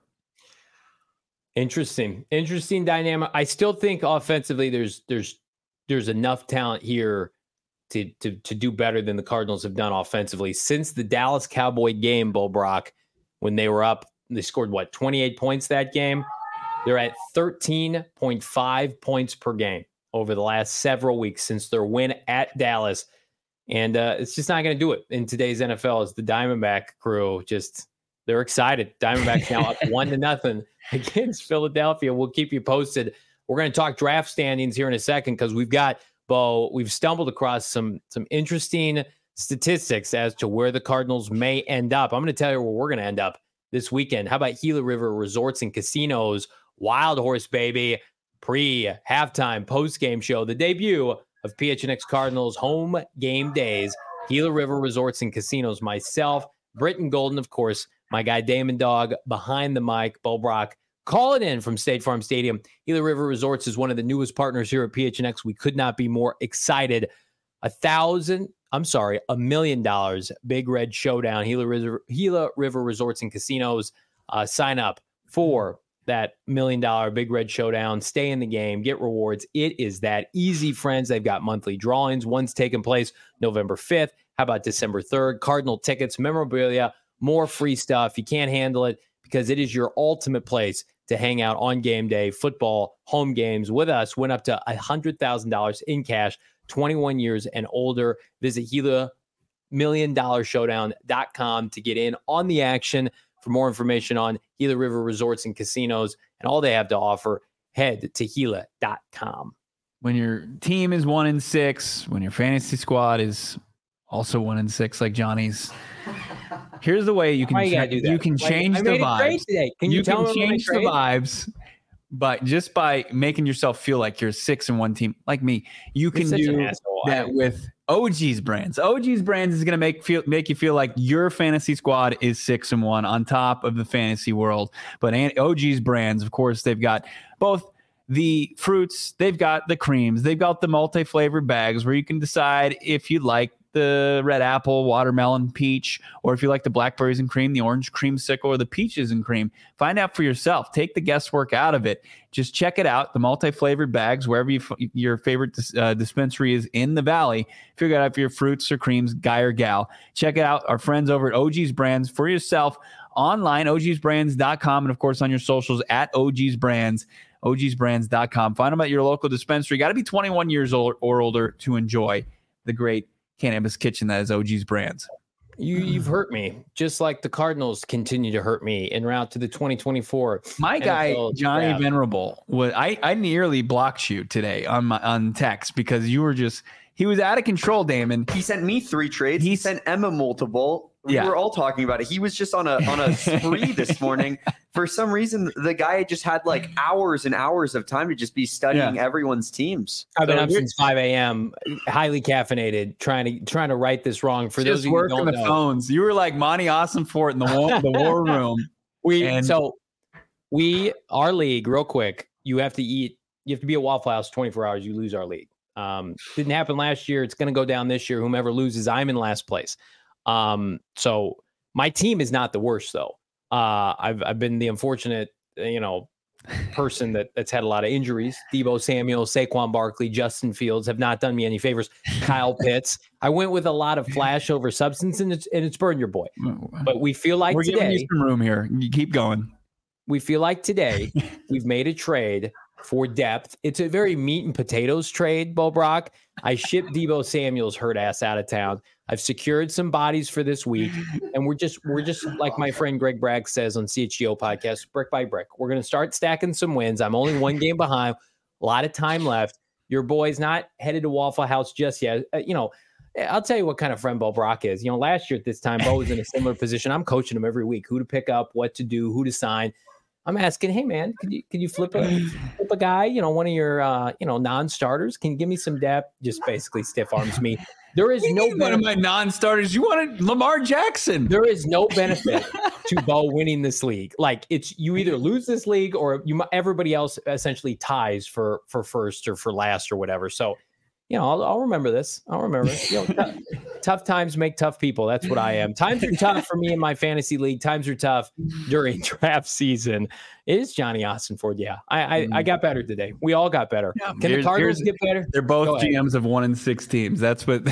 Interesting dynamic. I still think offensively there's enough talent here to do better than the Cardinals have done offensively since the Dallas Cowboy game. Bo Brock, when they were up, they scored 28 points that game. They're at 13.5 points per game over the last several weeks since their win at Dallas, and it's just not going to do it in today's NFL. As the Diamondback crew they're excited. Diamondbacks now up 1-0 against Philadelphia. We'll keep you posted. We're going to talk draft standings here in a second because we've stumbled across some interesting statistics as to where the Cardinals may end up. I'm going to tell you where we're going to end up this weekend. How about Gila River Resorts and Casinos, Wild Horse Baby, pre-halftime, post-game show, the debut of PHNX Cardinals home game days, Gila River Resorts and Casinos, myself, Britton Golden, of course, my guy Damon Dog behind the mic, Bo Brock, call it in from State Farm Stadium. Gila River Resorts is one of the newest partners here at PHNX. We could not be more excited. $1 million Big Red Showdown, Gila River Resorts and Casinos. Sign up for that $1 million Big Red Showdown. Stay in the game, get rewards. It is that easy, friends. They've got monthly drawings. One's taking place November 5th. How about December 3rd? Cardinal tickets, memorabilia, more free stuff. You can't handle it because it is your ultimate place to hang out on game day. Football, home games with us. Win up to $100,000 in cash, 21 years and older. Visit GilaMillionDollarShowdown.com to get in on the action. For more information on Gila River Resorts and Casinos and all they have to offer, head to Gila.com. When your team is 1-6, when your fantasy squad is also 1-6 like Johnny's, here's the way you can change the vibes. Can you tell me change the vibes? But just by making yourself feel like you're a 6-1 team, like me, you can do that with OG's Brands. OG's Brands is going to make you feel like your fantasy squad is 6-1 on top of the fantasy world. But OG's Brands, of course, they've got both the fruits, they've got the creams, they've got the multi-flavored bags where you can decide if you like the red apple, watermelon, peach, or if you like the blackberries and cream, the orange creamsicle, or the peaches and cream. Find out for yourself. Take the guesswork out of it. Just check it out. The multi-flavored bags, wherever your favorite dispensary is in the Valley. Figure out if your fruits or creams, guy or gal. Check it out. Our friends over at OG's Brands for yourself online, ogsbrands.com, and of course on your socials at OG's Brands, ogsbrands.com. Find them at your local dispensary. Got to be 21 years old or older to enjoy the great cannabis kitchen that is OG's Brands. You've hurt me, just like the Cardinals continue to hurt me en route to the 2024. My guy Johnny Venerable, I nearly blocked you today on text because you were he was out of control, Damon. He sent me 3 trades. He sent Emma multiple. We were all talking about it. He was just on a spree this morning. For some reason, the guy just had like hours and hours of time to just be studying everyone's teams. I've been up since 5 a.m., highly caffeinated, trying to right this wrong. For those of you who don't know, phones. You were like Monty Ossenfort in the war room. Our league, real quick, you have to be at Waffle House 24 hours. You lose our league. Didn't happen last year. It's going to go down this year. Whomever loses, I'm in last place. So my team is not the worst though. I've been the unfortunate, person that's had a lot of injuries. Deebo Samuel, Saquon Barkley, Justin Fields have not done me any favors. Kyle Pitts. I went with a lot of flash over substance, and it's burned your boy. But we feel like we're giving you some room here. You keep going. We feel like today we've made a trade for depth. It's a very meat and potatoes trade, Bo Brock. I shipped Deebo Samuel's hurt ass out of town. I've secured some bodies for this week, and we're just like my friend Greg Bragg says on CHGO podcast, brick by brick. We're going to start stacking some wins. I'm only 1 game behind, a lot of time left. Your boy's not headed to Waffle House just yet. I'll tell you what kind of friend Bo Brock is. Last year at this time, Bo was in a similar position. I'm coaching him every week, who to pick up, what to do, who to sign. I'm asking, hey man, could you flip a guy, one of your non-starters? Can you give me some depth? Just basically stiff arms me. There is no one of my non-starters. You wanted Lamar Jackson. There is no benefit to Bo winning this league. Like you either lose this league or everybody else essentially ties for first or for last or whatever. So, I'll remember this. I'll remember it. Tough times make tough people. That's what I am. Times are tough for me in my fantasy league. Times are tough during draft season. It is Johnny Ossenford. Yeah, I got better today. We all got better. Yeah, can the Cardinals get better? They're both GMs of 1-6 teams. That's where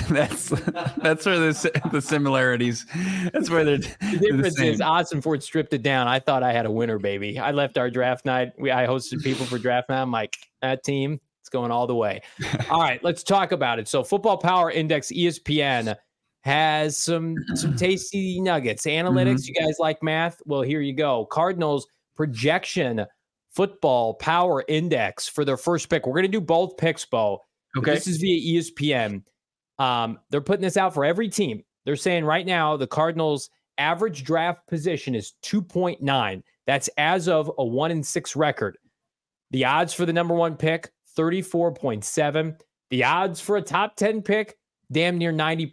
the similarities. That's where the difference is. Ossenford stripped it down. I thought I had a winner, baby. I left our draft night. I hosted people for draft night. I'm like, that team. Going all the way. All right, let's talk about it. So Football Power Index, ESPN, has some tasty nuggets. Analytics, You guys like math? Well, here you go. Cardinals projection Football Power Index for their first pick. We're going to do both picks, Bo. Okay. This is via ESPN. They're putting this out for every team. They're saying right now the Cardinals' average draft position is 2.9. That's as of a 1-6 record. The odds for the number 1 pick, 34.7. The odds for a top 10 pick, damn near 90%,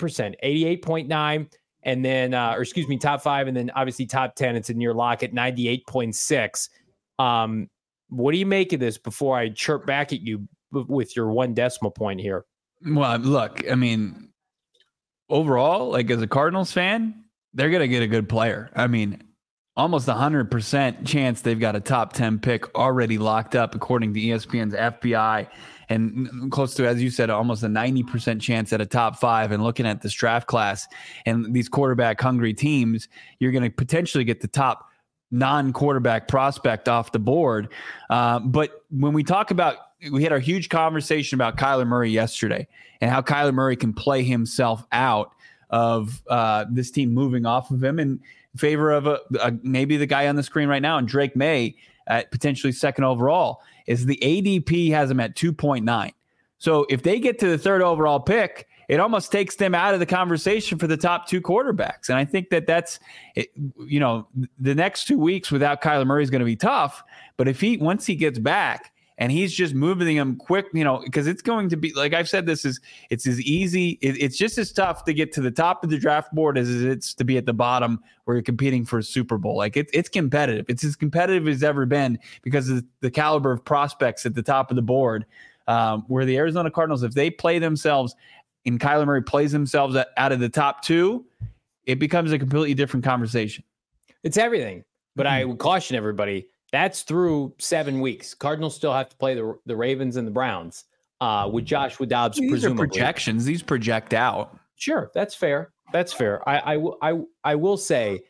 88.9. And then, top 5. And then obviously top 10, it's a near lock at 98.6. What do you make of this before I chirp back at you with your 1 decimal point here? Well, look, I mean, overall, like as a Cardinals fan, they're going to get a good player. I mean, almost 100% chance they've got a top 10 pick already locked up, according to ESPN's FBI, and close to, as you said, almost a 90% chance at a top 5. And looking at this draft class and these quarterback hungry teams, you're going to potentially get the top non-quarterback prospect off the board. But when we talk about, we had our huge conversation about Kyler Murray yesterday and how Kyler Murray can play himself out of this team moving off of him in favor of maybe the guy on the screen right now, and Drake May at potentially 2nd overall. Is the ADP has him at 2.9. So if they get to the 3rd overall pick, it almost takes them out of the conversation for the top 2 quarterbacks. And I think that's the next 2 weeks without Kyler Murray is going to be tough. But once he gets back and he's just moving them quick, because it's going to be, like I've said, it's as easy. It's just as tough to get to the top of the draft board as it's to be at the bottom where you're competing for a Super Bowl. Like it's competitive. It's as competitive as ever been because of the caliber of prospects at the top of the board, where the Arizona Cardinals, if they play themselves and Kyler Murray plays themselves out of the top 2, it becomes a completely different conversation. It's everything. But I would caution everybody, that's through 7 weeks. Cardinals still have to play the Ravens and the Browns with Joshua Dobbs. These are projections. These project out. Sure, that's fair. That's fair. I will say,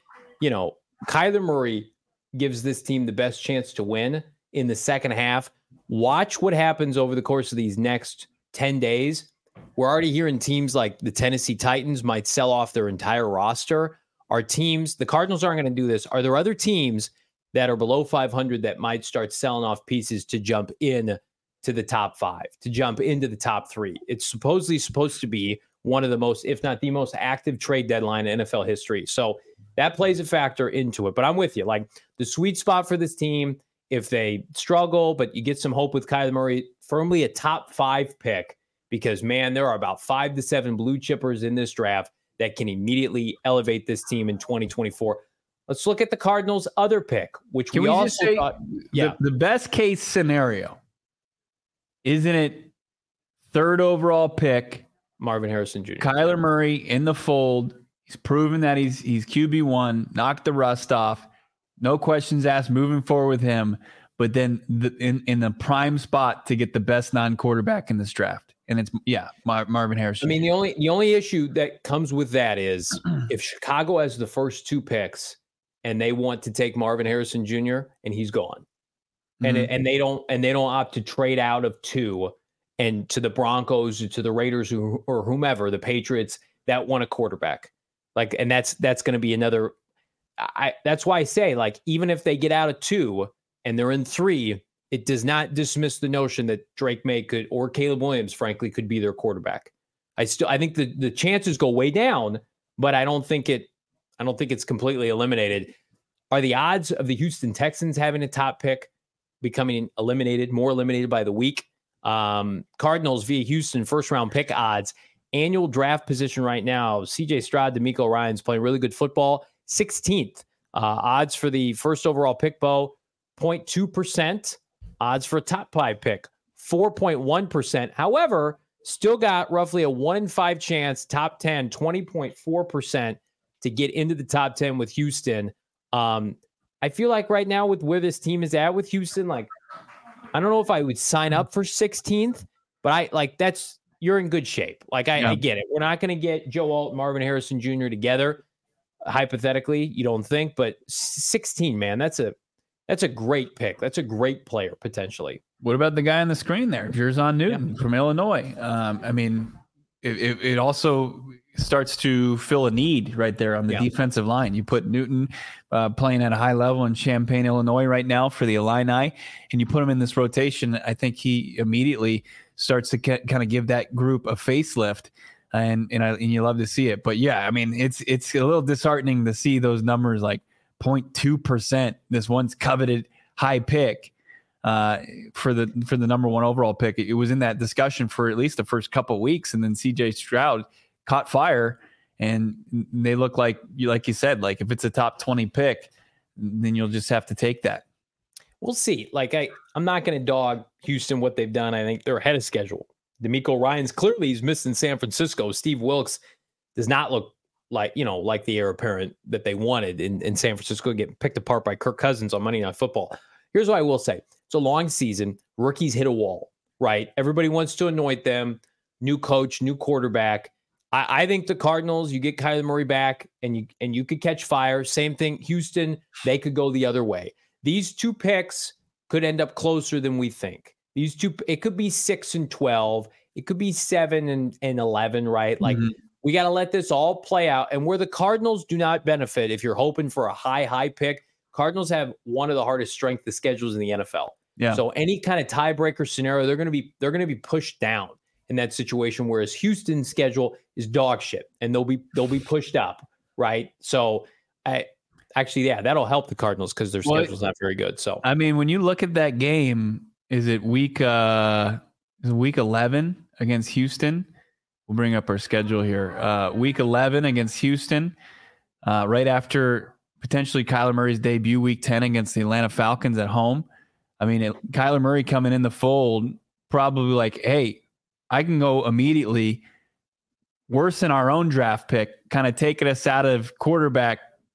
Kyler Murray gives this team the best chance to win in the second half. Watch what happens over the course of these next 10 days. We're already hearing teams like the Tennessee Titans might sell off their entire roster. The Cardinals aren't going to do this. Are there other teams that are below 500 that might start selling off pieces to jump in to the top 5, to jump into the top 3? It's supposedly supposed to be one of the most, if not the most active trade deadline in NFL history. So that plays a factor into it. But I'm with you. Like, the sweet spot for this team, if they struggle, but you get some hope with Kyler Murray, firmly a top 5 pick, because, man, there are about 5 to 7 blue chippers in this draft that can immediately elevate this team in 2024. Let's look at the Cardinals' other pick, which we also say, thought, the best case scenario, isn't it 3rd overall pick, Marvin Harrison Jr., Kyler Murray in the fold. He's proven that he's QB1, knocked the rust off, no questions asked moving forward with him. But then in the prime spot to get the best non-quarterback in this draft. And it's Marvin Harrison. I mean, the only issue that comes with that is if Chicago has the first 2 picks and they want to take Marvin Harrison Jr. and he's gone, and they don't opt to trade out of 2 and to the Broncos or to the Raiders or whomever, the Patriots that want a quarterback, like, and that's going to be another. That's why I say, like, even if they get out of 2 and they're in 3. It does not dismiss the notion that Drake May could, or Caleb Williams, frankly, could be their quarterback. I think the chances go way down, but I don't think it's completely eliminated. Are the odds of the Houston Texans having a top pick becoming more eliminated by the week? Cardinals via Houston first round pick odds, annual draft position right now. CJ Stroud, DeMeco Ryans playing really good football. 16th odds for the first overall pick, Bo, 0.2%. Odds for a top 5 pick, 4.1%. However, still got roughly a 1 in 5 chance, top 10, 20.4% to get into the top 10 with Houston. I feel like right now with where this team is at with Houston, like, I don't know if I would sign up for 16th, but you're in good shape. Like, I get it. We're not going to get Joe Alt, Marvin Harrison Jr. together, hypothetically, you don't think, but 16, man, that's a great pick. That's a great player, potentially. What about the guy on the screen there, Jerzon Newton from Illinois? I mean, it also starts to fill a need right there on the defensive line. You put Newton playing at a high level in Champaign, Illinois right now for the Illini, and you put him in this rotation. I think he immediately starts to kind of give that group a facelift, and you love to see it. But yeah, I mean, it's a little disheartening to see those numbers, like 0.2%, this once coveted high pick for the number 1 overall pick. It was in that discussion for at least the first couple of weeks, and then CJ Stroud caught fire, and they look like you said, like, if it's a top 20 pick, then you'll just have to take that. We'll see. Like, I'm not going to dog Houston, what they've done. I think they're ahead of schedule. DeMeco Ryans, clearly he's missed in San Francisco. Steve Wilkes does not look like the heir apparent that they wanted in San Francisco, getting picked apart by Kirk Cousins on Monday Night Football. Here's what I will say. It's a long season. Rookies hit a wall, right? Everybody wants to anoint them. New coach, new quarterback. I think the Cardinals, you get Kyler Murray back and you could catch fire. Same thing. Houston, they could go the other way. These 2 picks could end up closer than we think. These 2, it could be 6 and 12. It could be 7 and 11, right? Like, we got to let this all play out. And where the Cardinals do not benefit, if you're hoping for a high pick, Cardinals have one of the hardest strength of schedules in the NFL. Yeah. So any kind of tiebreaker scenario, they're going to be pushed down in that situation. Whereas Houston's schedule is dog shit, and they'll be pushed up, right? So, that'll help the Cardinals because their schedule's not very good. So, I mean, when you look at that game, is it week 11 against Houston? We'll bring up our schedule here. Week 11 against Houston, right after potentially Kyler Murray's debut, week 10 against the Atlanta Falcons at home. I mean, Kyler Murray coming in the fold, probably like, hey, I can go immediately worsen our own draft pick, kind of taking us out of quarterback,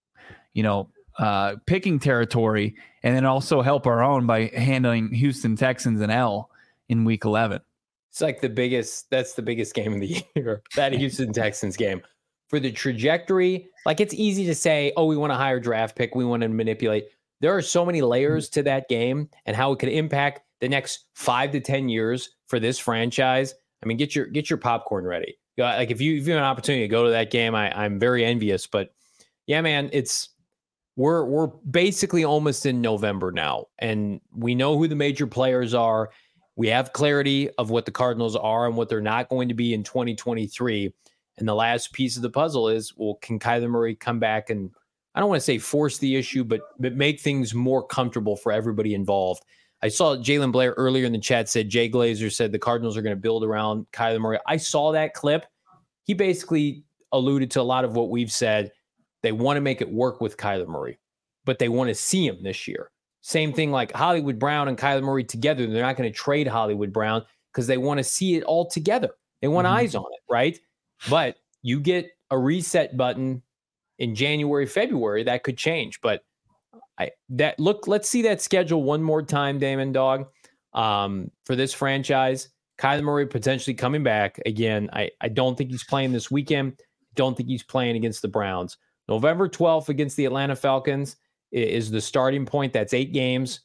picking territory, and then also help our own by handling Houston Texans and L in week 11. It's like that's the biggest game of the year, that Houston Texans game. For the trajectory, like it's easy to say, oh, we want a higher draft pick, we want to manipulate. There are so many layers to that game and how it could impact the next 5 to 10 years for this franchise. I mean, get your popcorn ready. Like if you have an opportunity to go to that game, I'm very envious. But yeah, man, we're basically almost in November now, and we know who the major players are. We have clarity of what the Cardinals are and what they're not going to be in 2023. And the last piece of the puzzle is, well, can Kyler Murray come back and, I don't want to say force the issue, but make things more comfortable for everybody involved. I saw Jalen Blair earlier in the chat said Jay Glazer said the Cardinals are going to build around Kyler Murray. I saw that clip. He basically alluded to a lot of what we've said. They want to make it work with Kyler Murray, but they want to see him this year. Same thing like Hollywood Brown and Kyler Murray together. They're not going to trade Hollywood Brown because they want to see it all together. They want eyes on it, right? But you get a reset button in January, February, that could change. But let's see that schedule one more time, Damon Dog, for this franchise. Kyler Murray potentially coming back again. I don't think he's playing this weekend. Don't think he's playing against the Browns. November 12th against the Atlanta Falcons is the starting point. That's 8 games.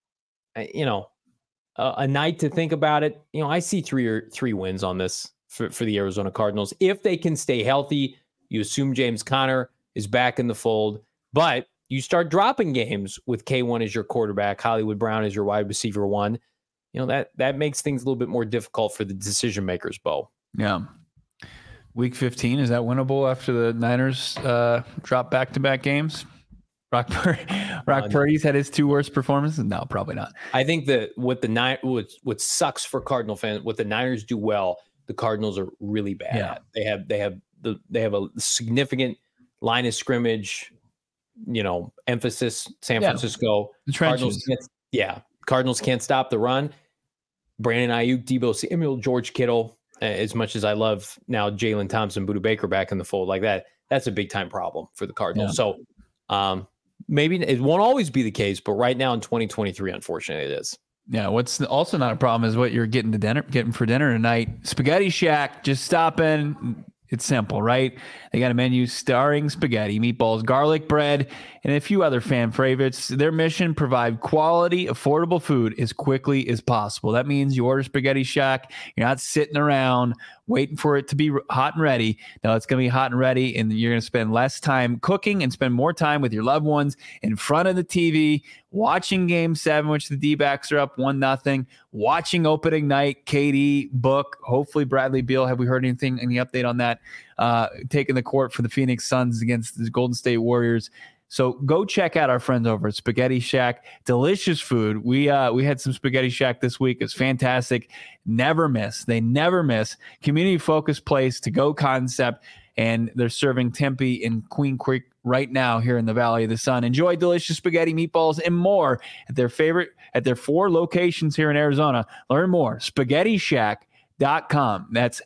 A night to think about it. I see three wins on this for the Arizona Cardinals. If they can stay healthy, you assume James Conner is back in the fold, but you start dropping games with K1 as your quarterback, Hollywood Brown as your wide receiver 1. That makes things a little bit more difficult for the decision makers, Bo. Yeah. Week 15, is that winnable after the Niners drop back-to-back games? Brock Purdy's had his 2 worst performances? No, probably not. I think that what sucks for Cardinal fans, what the Niners do well, the Cardinals are really bad at. They have a significant line of scrimmage, emphasis. San Francisco. The trenches. Cardinals can't stop the run. Brandon Ayuk, Deebo Samuel, George Kittle. As much as I love now Jalen Thompson, Budda Baker back in the fold like that's a big time problem for the Cardinals. Yeah. So maybe it won't always be the case, but right now in 2023, unfortunately, it is. Yeah, what's also not a problem is what you're getting for dinner tonight. Spaghetti Shack, just stop in. It's simple, right? They got a menu starring spaghetti, meatballs, garlic bread, and a few other fan favorites. Their mission, provide quality, affordable food as quickly as possible. That means you order Spaghetti Shack. You're not sitting around waiting for it to be hot and ready. No, it's going to be hot and ready, and you're going to spend less time cooking and spend more time with your loved ones in front of the TV, watching Game 7, which the D-backs are up 1-0, watching opening night, KD, Book, hopefully Bradley Beal. Have we heard anything, any update on that? Taking the court for the Phoenix Suns against the Golden State Warriors. So go check out our friends over at Spaghetti Shack. Delicious food. We had some Spaghetti Shack this week. It's fantastic. Never miss. They never miss. Community-focused place, to-go concept, and they're serving Tempe and Queen Creek right now here in the Valley of the Sun. Enjoy delicious spaghetti, meatballs, and more at their 4 locations here in Arizona. Learn more. SpaghettiShack.com. That's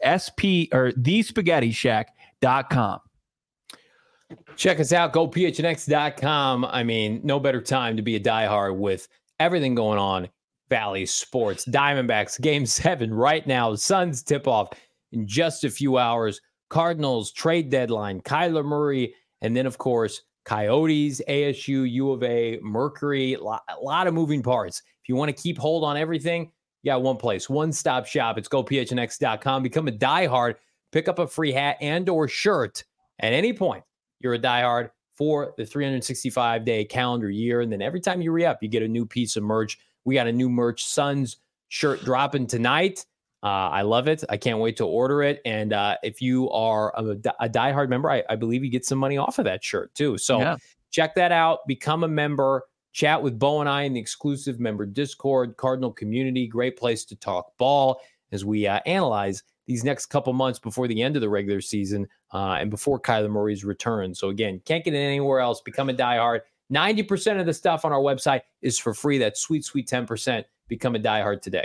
thespaghettishack.com. Check us out. GoPHNX.com. I mean, no better time to be a diehard with everything going on. Valley Sports, Diamondbacks, Game 7 right now. Suns tip-off in just a few hours. Cardinals trade deadline. Kyler Murray, and then, of course, Coyotes, ASU, U of A, Mercury. A lot of moving parts. If you want to keep hold on everything, you got one place, one-stop shop. It's GoPHNX.com. Become a diehard. Pick up a free hat and or shirt at any point. You're a diehard for the 365-day calendar year. And then every time you re-up, you get a new piece of merch. We got a new merch Suns shirt dropping tonight. I love it. I can't wait to order it. And if you are a diehard member, I believe you get some money off of that shirt too. So check that out. Become a member. Chat with Bo and I in the exclusive member Discord, Cardinal community. Great place to talk ball as we analyze these next couple months before the end of the regular season and before Kyler Murray's return. So again, can't get it anywhere else. Become a diehard. 90% of the stuff on our website is for free. That's sweet, sweet 10%. Become a diehard today.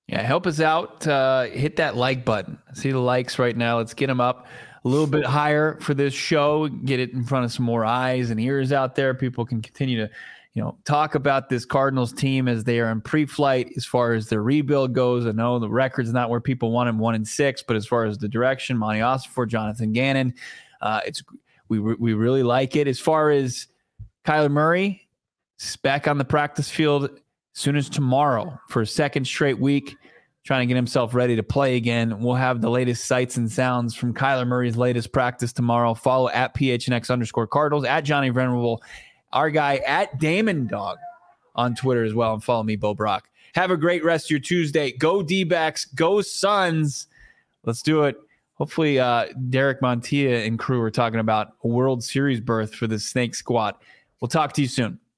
Yeah, help us out. Hit that like button. I see the likes right now. Let's get them up a little bit higher for this show. Get it in front of some more eyes and ears out there. People can continue to, talk about this Cardinals team as they are in pre-flight as far as their rebuild goes. I know the record's not where people want them, 1-6, but as far as the direction, Monty Ossenfort, Jonathan Gannon, we really like it. As far as Kyler Murray, he's back on the practice field as soon as tomorrow for a second straight week, trying to get himself ready to play again. We'll have the latest sights and sounds from Kyler Murray's latest practice tomorrow. Follow at PHNX_Cardinals, at Johnny Venerable, our guy at Damon Dog on Twitter as well, and follow me, Bo Brock. Have a great rest of your Tuesday. Go D-backs, go Suns. Let's do it. Hopefully Derek Montilla and crew are talking about a World Series berth for the Snake Squad. We'll talk to you soon.